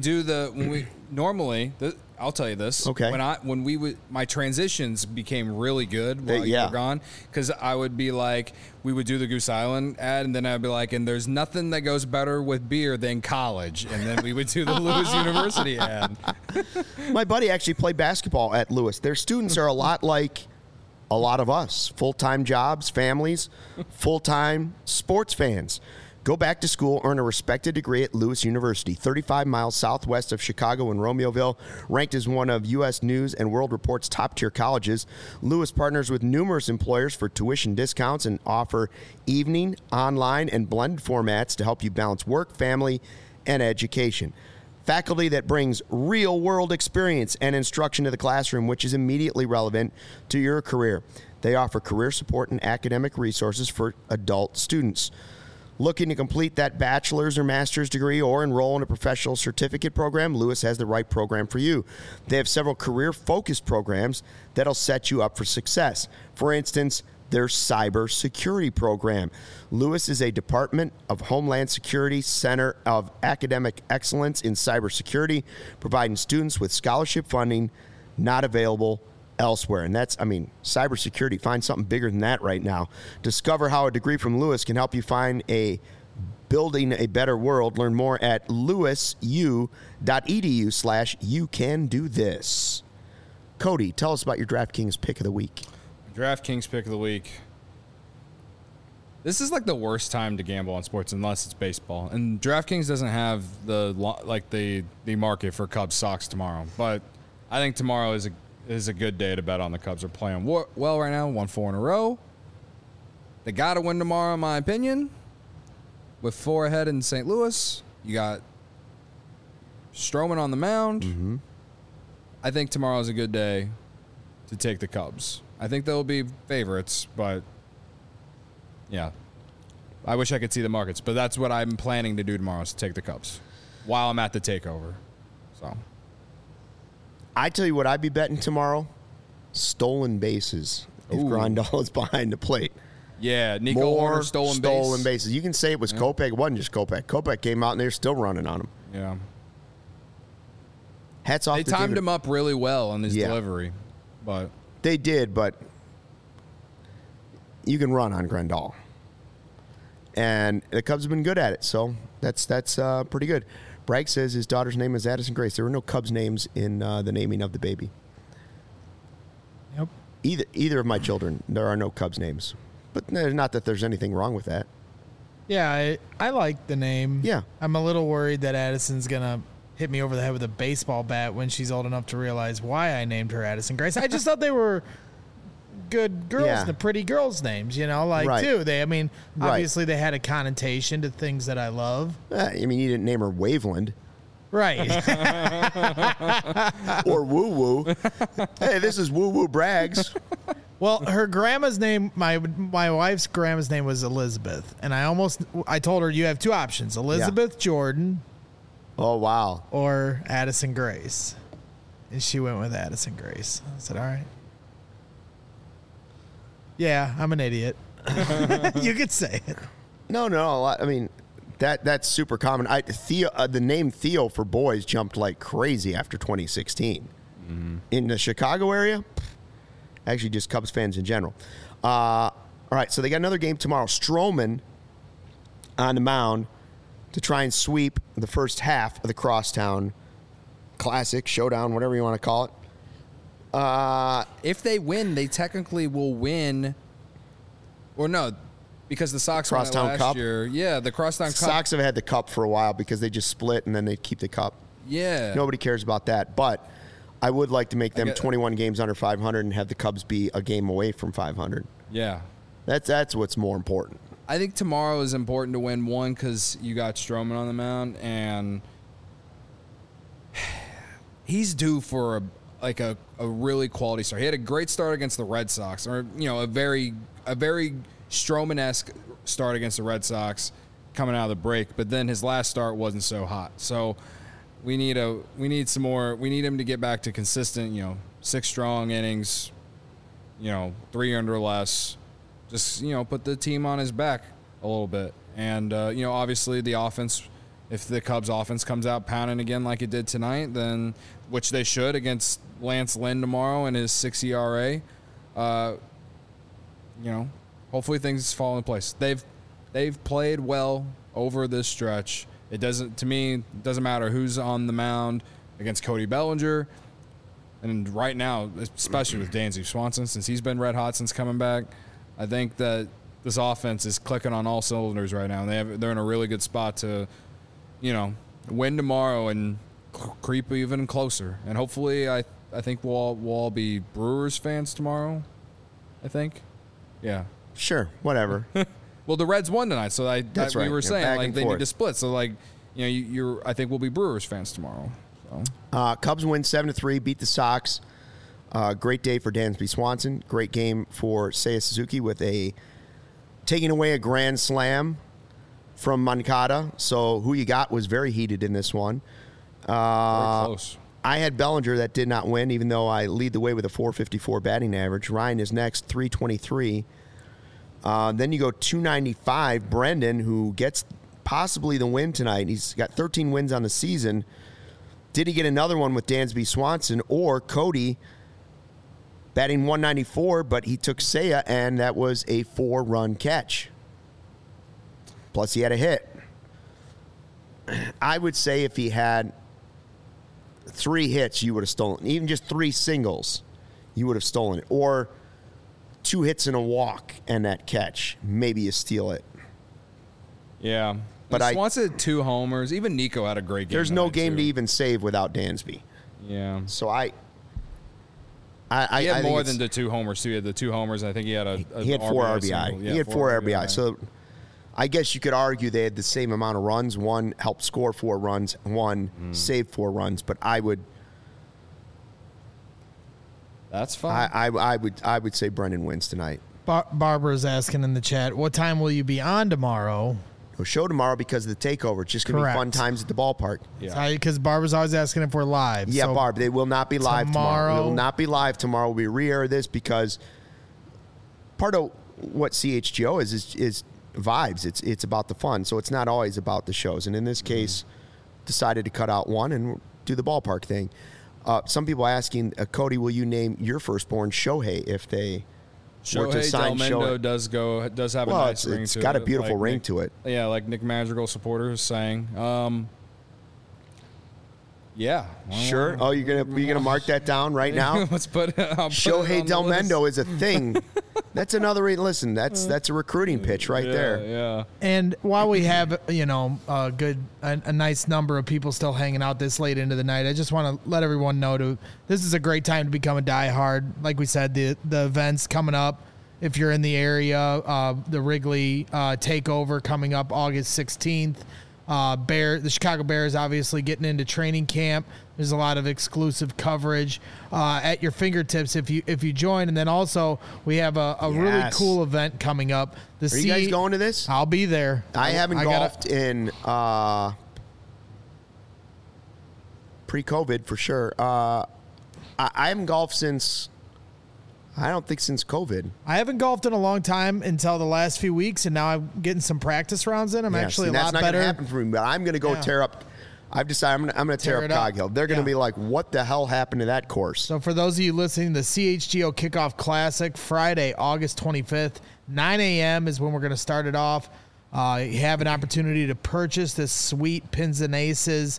I'll tell you this. Okay. My transitions became really good while you were gone, because I would be like, we would do the Goose Island ad, and then I'd be like, and there's nothing that goes better with beer than college, and then we would do the Lewis University ad. My buddy actually played basketball at Lewis. Their students are a lot like a lot of us, full-time jobs, families, full-time sports fans. Go back to school, earn a respected degree at Lewis University, 35 miles southwest of Chicago in Romeoville. Ranked as one of U.S. News and World Report's top-tier colleges, Lewis partners with numerous employers for tuition discounts and offer evening, online, and blended formats to help you balance work, family, and education. Faculty that brings real-world experience and instruction to the classroom, which is immediately relevant to your career. They offer career support and academic resources for adult students. Looking to complete that bachelor's or master's degree or enroll in a professional certificate program, Lewis has the right program for you. They have several career-focused programs that'll set you up for success. For instance, their cybersecurity program. Lewis is a Department of Homeland Security Center of Academic Excellence in Cybersecurity, providing students with scholarship funding not available elsewhere. And that's, cybersecurity. Find something bigger than that right now. Discover how a degree from Lewis can help you find building a better world. Learn more at lewisu.edu/youcandotthis. Cody, tell us about your DraftKings pick of the week. DraftKings pick of the week. This is like the worst time to gamble on sports unless it's baseball. And DraftKings doesn't have the market for Cubs Sox tomorrow. But I think tomorrow is a good day to bet on the Cubs. Are playing well right now, won 4 in a row. They got to win tomorrow, in my opinion. With 4 ahead in St. Louis, you got Stroman on the mound. Mm-hmm. I think tomorrow is a good day to take the Cubs. I think they'll be favorites, but yeah. I wish I could see the markets, but that's what I'm planning to do tomorrow is to take the Cubs while I'm at the takeover. So, I tell you what I'd be betting tomorrow, stolen bases if Grandal is behind the plate. Yeah, Nico More Hoerner stolen bases. You can say it was Kopech. It wasn't just Kopech. Kopech came out and they're still running on him. Yeah. Hats off. They timed him up really well on his delivery, but they did. But you can run on Grandal, and the Cubs have been good at it. So that's pretty good. Bragg says his daughter's name is Addison Grace. There were no Cubs names in the naming of the baby. Yep. Either of my children, there are no Cubs names. But not that there's anything wrong with that. Yeah, I like the name. Yeah. I'm a little worried that Addison's going to hit me over the head with a baseball bat when she's old enough to realize why I named her Addison Grace. I just thought they were good girls, the pretty girls' names, too. Obviously they had a connotation to things that I love. You didn't name her Waveland. Right. Or Woo Woo. Hey, this is Woo Woo Braggs. Well, her grandma's name, my wife's grandma's name was Elizabeth, and I told her you have two options: Elizabeth Jordan. Oh wow! Or Addison Grace, and she went with Addison Grace. I said, "All right." Yeah, I'm an idiot. You could say it. No. That's super common. The name Theo for boys jumped like crazy after 2016 in the Chicago area. Actually, just Cubs fans in general. All right, so they got another game tomorrow. Stroman on the mound to try and sweep the first half of the Crosstown Classic, Showdown, whatever you want to call it. If they win, they technically will win. Or no, because the Sox won it last year. Yeah, the Crosstown Cup. Sox have had the cup for a while because they just split and then they keep the cup. Yeah. Nobody cares about that, but I would like to make them 21 games under 500 and have the Cubs be a game away from 500. Yeah. That's what's more important. I think tomorrow is important to win one because you got Stroman on the mound, and he's due for a really quality start. He had a great start against the Red Sox, or a very Stroman-esque start against the Red Sox coming out of the break, but then his last start wasn't so hot. So we need some more. We need him to get back to consistent, 6 strong innings, 3 under less. Just, put the team on his back a little bit. And, obviously the offense, if the Cubs offense comes out pounding again like it did tonight, then, which they should against Lance Lynn tomorrow and his 6 ERA, hopefully things fall in place. They've played well over this stretch. It doesn't matter who's on the mound against Cody Bellinger. And right now, especially with Dansby Swanson, since he's been red hot since coming back, I think that this offense is clicking on all cylinders right now. And they're in a really good spot to, win tomorrow and creep even closer. And hopefully, I think we'll all be Brewers fans tomorrow. I think. Yeah. Sure. Whatever. Well, the Reds won tonight, so that's right. We were saying they forth. need to split. So I think we'll be Brewers fans tomorrow. So. Cubs win 7-3, beat the Sox. Great day for Dansby Swanson. Great game for Seiya Suzuki with taking away a grand slam from Moncada. So who you got was very heated in this one. Very close. I had Bellinger that did not win, even though I lead the way with a .454 batting average. Ryan is next, .323. Then you go 295. Brendan, who gets possibly the win tonight. He's got 13 wins on the season. Did he get another one with Dansby Swanson or Cody batting 194, but he took Seiya, and that was a 4-run catch. Plus, he had a hit. I would say if he had 3 hits, you would have stolen. Even just 3 singles, you would have stolen it. Or 2 hits and a walk and that catch. Maybe you steal it. Yeah. But Swanson had 2 homers. Even Nico had a great game. There's no game to even save without Dansby. Yeah. So he had more than the 2 homers, too. He had the 2 homers. I think he had he had 4 RBI. Yeah, he had 4 RBI. So I guess you could argue they had the same amount of runs. One helped score 4 runs. One saved 4 runs. But I would. That's fine. I would say Brendan wins tonight. Barbara's asking in the chat, what time will you be on tomorrow? No show tomorrow because of the takeover. It's just going to be fun times at the ballpark. Yeah. Because Barbara's always asking if we're live. Yeah, so Barb, they will not be live tomorrow. We will not be live tomorrow. We re-air this because part of what CHGO is vibes. It's about the fun. So it's not always about the shows. And in this case, decided to cut out one and do the ballpark thing. Some people asking, Cody, will you name your firstborn Shohei if they were to sign Shohei? Does have a nice ring to it. It's got a beautiful ring to it. Yeah, like Nick Madrigal supporters saying. Yeah. Sure. Oh, you're gonna mark that down right now? Let's put Shohei Delmendo is a thing. That's another. Listen, that's a recruiting pitch right there. Yeah. And while we have a nice number of people still hanging out this late into the night, I just want to let everyone know this is a great time to become a diehard. Like we said, the events coming up. If you're in the area, the Wrigley takeover coming up August 16th. The Chicago Bears obviously getting into training camp. There's a lot of exclusive coverage at your fingertips if you join. And then also we have a really cool event coming up. Are you guys going to this? I'll be there. I haven't golfed in pre-COVID for sure. I haven't golfed since COVID. I haven't golfed in a long time until the last few weeks, and now I'm getting some practice rounds in. I'm actually a lot better. That's not going to happen for me, but I'm going to go tear up. I've decided I'm going to tear up Cog Hill. They're going to be like, what the hell happened to that course? So for those of you listening, the CHGO Kickoff Classic, Friday, August 25th, 9 a.m. is when we're going to start it off. You have an opportunity to purchase this sweet Pins and Aces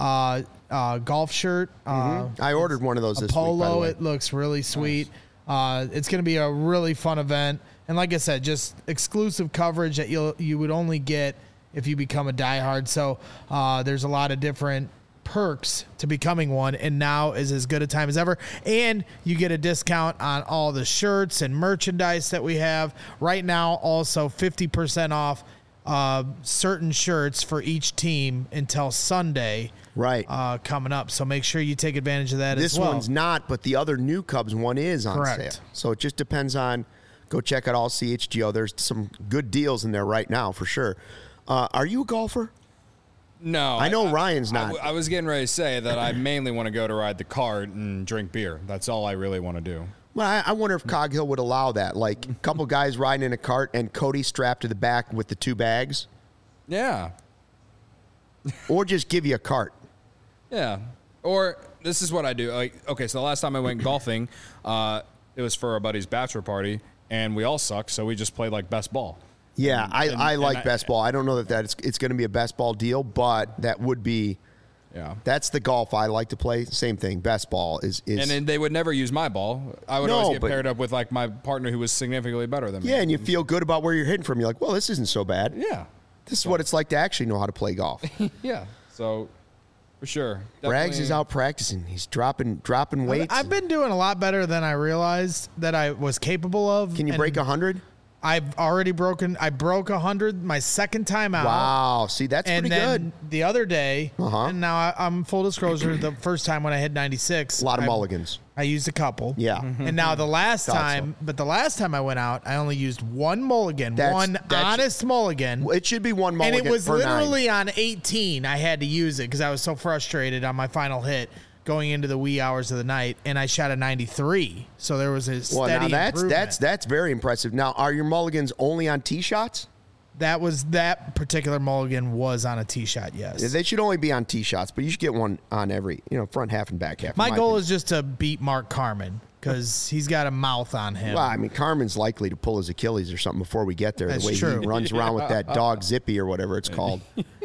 golf shirt. I ordered one of those this polo, week, by the way. It looks really sweet. Nice. It's going to be a really fun event. And like I said, just exclusive coverage that you would only get if you become a diehard. So there's a lot of different perks to becoming one, and now is as good a time as ever. And you get a discount on all the shirts and merchandise that we have. Right now, also 50% off certain shirts for each team until Sunday. Right. Coming up. So make sure you take advantage of that as well. This one's not, but the other new Cubs one is on sale. So it just depends on, go check out all CHGO. There's some good deals in there right now for sure. Are you a golfer? No. I know Ryan's not. I was getting ready to say that I mainly want to go to ride the cart and drink beer. That's all I really want to do. Well, I wonder if Cog Hill would allow that. Like a couple guys riding in a cart and Cody strapped to the back with the 2 bags. Yeah. Or just give you a cart. Yeah. Or this is what I do. Okay, so the last time I went golfing, it was for a buddy's bachelor party, and we all suck, so we just played like best ball. Yeah, I like best ball. I don't know that it's going to be a best ball deal, but that would be. Yeah, that's the golf I like to play. Same thing. Best ball is and then they would never use my ball. I would always get paired up with like my partner who was significantly better than me. Yeah, and you feel good about where you're hitting from. You're like, well, this isn't so bad. Yeah, this is what it's like to actually know how to play golf. Yeah, so for sure. Rags is out practicing. He's dropping weights. I've been doing a lot better than I realized that I was capable of. Can you break 100? I've already broken. I broke 100 my second time out. Wow, see that's pretty good. And then the other day, and now I'm full disclosure. The first time when I hit 96, a lot of mulligans. I used a couple. Yeah, and now the last time, but the last time I went out, I only used one mulligan, one honest mulligan. It should be one mulligan, and it was per literally 9. on 18. I had to use it because I was so frustrated on my final hit. Going into the wee hours of the night, and I shot a 93. So there was a steady improvement. That's very impressive. Now, are your mulligans only on tee shots? That particular mulligan was on a tee shot, yes. Yeah, they should only be on tee shots, but you should get one on every, front half and back half. My goal is just to beat Mark Carmen because he's got a mouth on him. Well, I mean, Carmen's likely to pull his Achilles or something before we get there. That's the way true. He runs around with that dog Zippy or whatever it's called.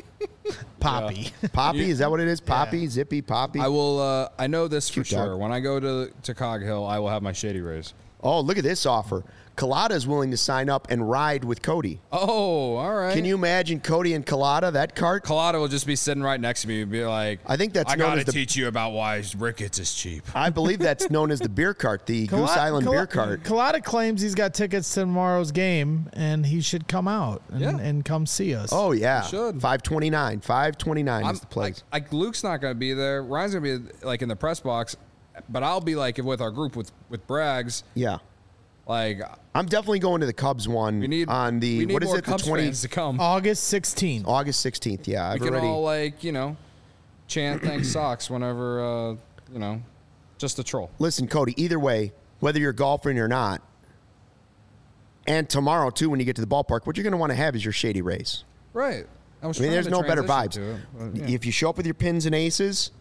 Poppy. Poppy, is that what it is? Poppy, Zippy, Poppy. I will. I know this for sure. When I go to Cog Hill, I will have my Shady Rays. Oh, look at this offer. Collada is willing to sign up and ride with Cody. Oh, all right. Can you imagine Cody and Collada, that cart? Collada will just be sitting right next to me and be like, I think that's I got to teach you about why Ricketts is cheap. I believe that's known as the beer cart, the Goose Island beer cart. Collada claims he's got tickets to tomorrow's game, and he should come out and come see us. Oh, yeah. He should. 529. 529 is the place. Luke's not going to be there. Ryan's going to be like in the press box, but I'll be like with our group with Braggs. Yeah. Like, I'm definitely going to the Cubs one on the, what is it, the 20th? To come. August 16th. August 16th, yeah. We can all, like, chant thanks Sox whenever, just a troll. Listen, Cody, either way, whether you're golfing or not, and tomorrow, too, when you get to the ballpark, what you're going to want to have is your Shady Rays. Right. I mean, there's no better vibes. If you show up with your pins and aces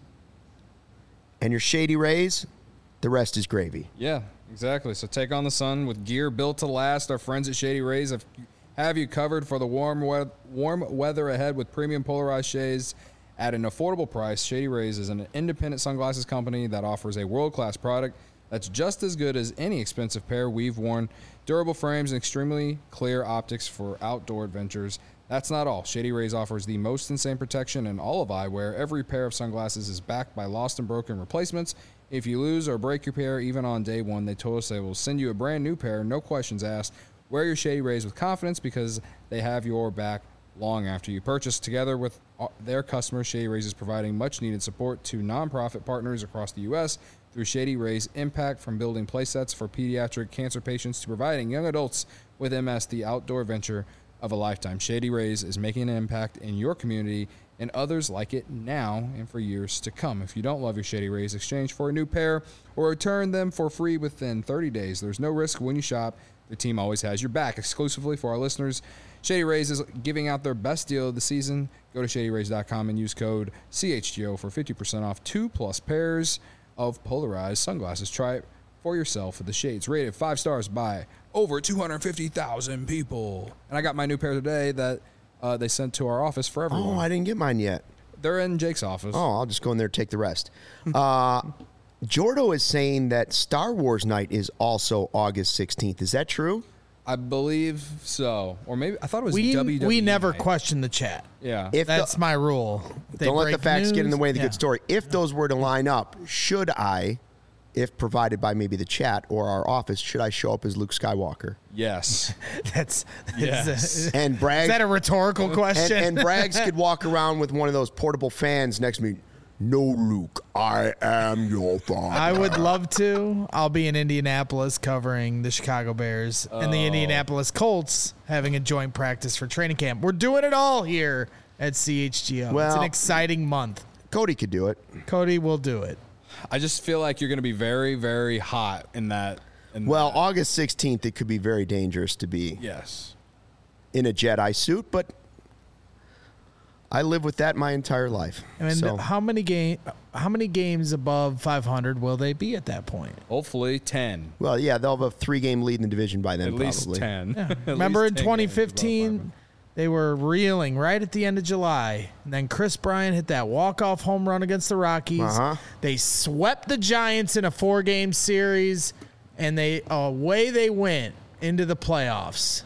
and your Shady Rays, the rest is gravy. Yeah, exactly. So take on the sun with gear built to last. Our friends at Shady Rays have you covered for the warm weather ahead with premium polarized shades at an affordable price. Shady Rays is an independent sunglasses company that offers a world-class product that's just as good as any expensive pair we've worn. Durable frames and extremely clear optics for outdoor adventures. That's not all. Shady Rays offers the most insane protection in all of eyewear. Every pair of sunglasses is backed by lost and broken replacements. If you lose or break your pair, even on day one, they told us they will send you a brand new pair, no questions asked. Wear your Shady Rays with confidence because they have your back long after you purchase. Together with their customers, Shady Rays is providing much-needed support to nonprofit partners across the U.S. through Shady Rays Impact, from building playsets for pediatric cancer patients to providing young adults with MS the outdoor adventure of a lifetime. Shady Rays is making an impact in your community and others like it now and for years to come. If you don't love your Shady Rays, exchange for a new pair or return them for free within 30 days. There's no risk when you shop. The team always has your back. Exclusively for our listeners, Shady Rays is giving out their best deal of the season. Go to shadyrays.com and use code CHGO for 50% off 2+ pairs of polarized sunglasses. Try it for yourself with the shades rated 5 stars by over 250,000 people. And I got my new pair today that they sent to our office for everyone. Oh, I didn't get mine yet. They're in Jake's office. Oh, I'll just go in there and take the rest. Jordo is saying that Star Wars night is also August 16th. Is that true? I believe so. Or maybe I thought it was WWE. We never night. question the chat. Yeah. That's my rule. Don't let the facts get in the way of the good story. If those were to line up, should I, if provided by maybe the chat or our office, should I show up as Luke Skywalker? Yes. And Braggs, is that a rhetorical question? And Braggs could walk around with one of those portable fans next to me. No, Luke, I am your father. I would love to. I'll be in Indianapolis covering the Chicago Bears and the Indianapolis Colts having a joint practice for training camp. We're doing it all here at CHGO. Well, it's an exciting month. Cody could do it. Cody will do it. I just feel like you're going to be very, very hot in that. August 16th, it could be very dangerous to be in a Jedi suit, but I live with that my entire life. And how many games above 500 will they be at that point? Hopefully 10. Well, yeah, they'll have a 3-game lead in the division by then. At least 10. Yeah. Remember in 2015, they were reeling right at the end of July. And then Chris Bryant hit that walk-off home run against the Rockies. They swept the Giants in a 4-game series, and away they went into the playoffs.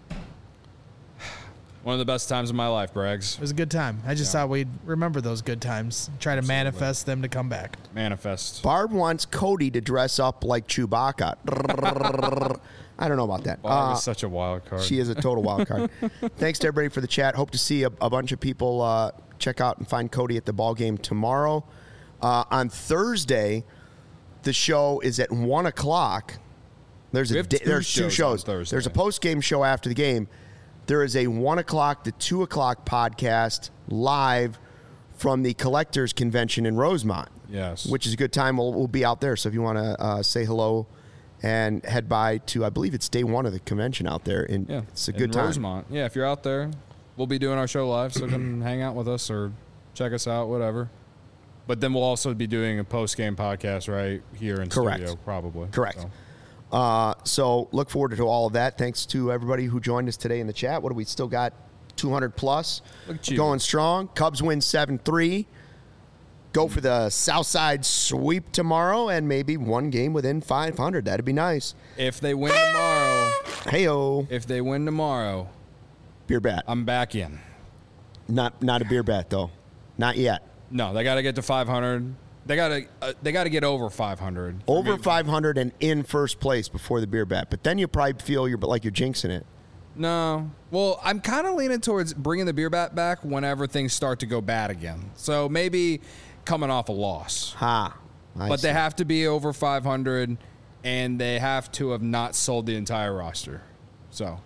One of the best times of my life, Braggs. It was a good time. I just thought we'd remember those good times. Try to manifest them to come back. Manifest. Barb wants Cody to dress up like Chewbacca. I don't know about that. Barb is such a wild card. She is a total wild card. Thanks to everybody for the chat. Hope to see a bunch of people check out and find Cody at the ball game tomorrow. On Thursday, the show is at 1 o'clock. There's two shows. There's a post-game show after the game. There is a 1 o'clock to 2 o'clock podcast live from the Collectors Convention in Rosemont. Yes. Which is a good time. We'll be out there. So if you want to say hello and head by to, I believe it's day 1 of the convention out there. It's a good time. Rosemont. Yeah, if you're out there, we'll be doing our show live. So come hang out with us or check us out, whatever. But then we'll also be doing a post-game podcast right here in studio, probably. Correct. So look forward to all of that. Thanks to everybody who joined us today in the chat. What do we still got? 200 plus. Going strong. Cubs win 7-3. Go for the Southside sweep tomorrow and maybe one game within 500. That'd be nice. If they win tomorrow. Hey-o. If they win tomorrow. Beer bat. I'm back in. Not a beer bat, though. Not yet. No, they got to get to 500. They got to get over 500. Over 500 and in first place before the beer bat. But then you probably feel like you're jinxing it. No. Well, I'm kind of leaning towards bringing the beer bat back whenever things start to go bad again. So maybe coming off a loss. But they have to be over 500 and they have to have not sold the entire roster. So.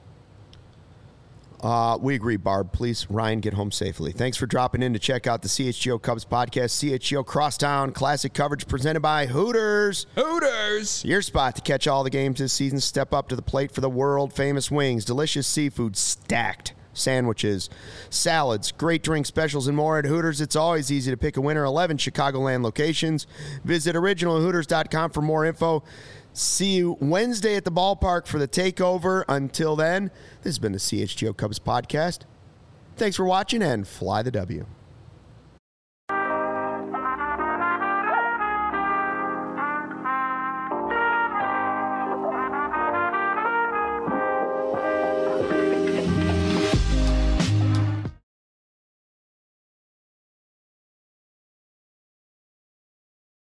We agree, Barb. Please, Ryan, get home safely. Thanks for dropping in to check out the CHGO Cubs podcast. CHGO Crosstown Classic coverage presented by Hooters. Hooters! Your spot to catch all the games this season. Step up to the plate for the world-famous wings, delicious seafood, stacked sandwiches, salads, great drink specials, and more at Hooters. It's always easy to pick a winner. 11 Chicagoland locations. Visit originalhooters.com for more info. See you Wednesday at the ballpark for the takeover. Until then, this has been the CHGO Cubs podcast. Thanks for watching and fly the W.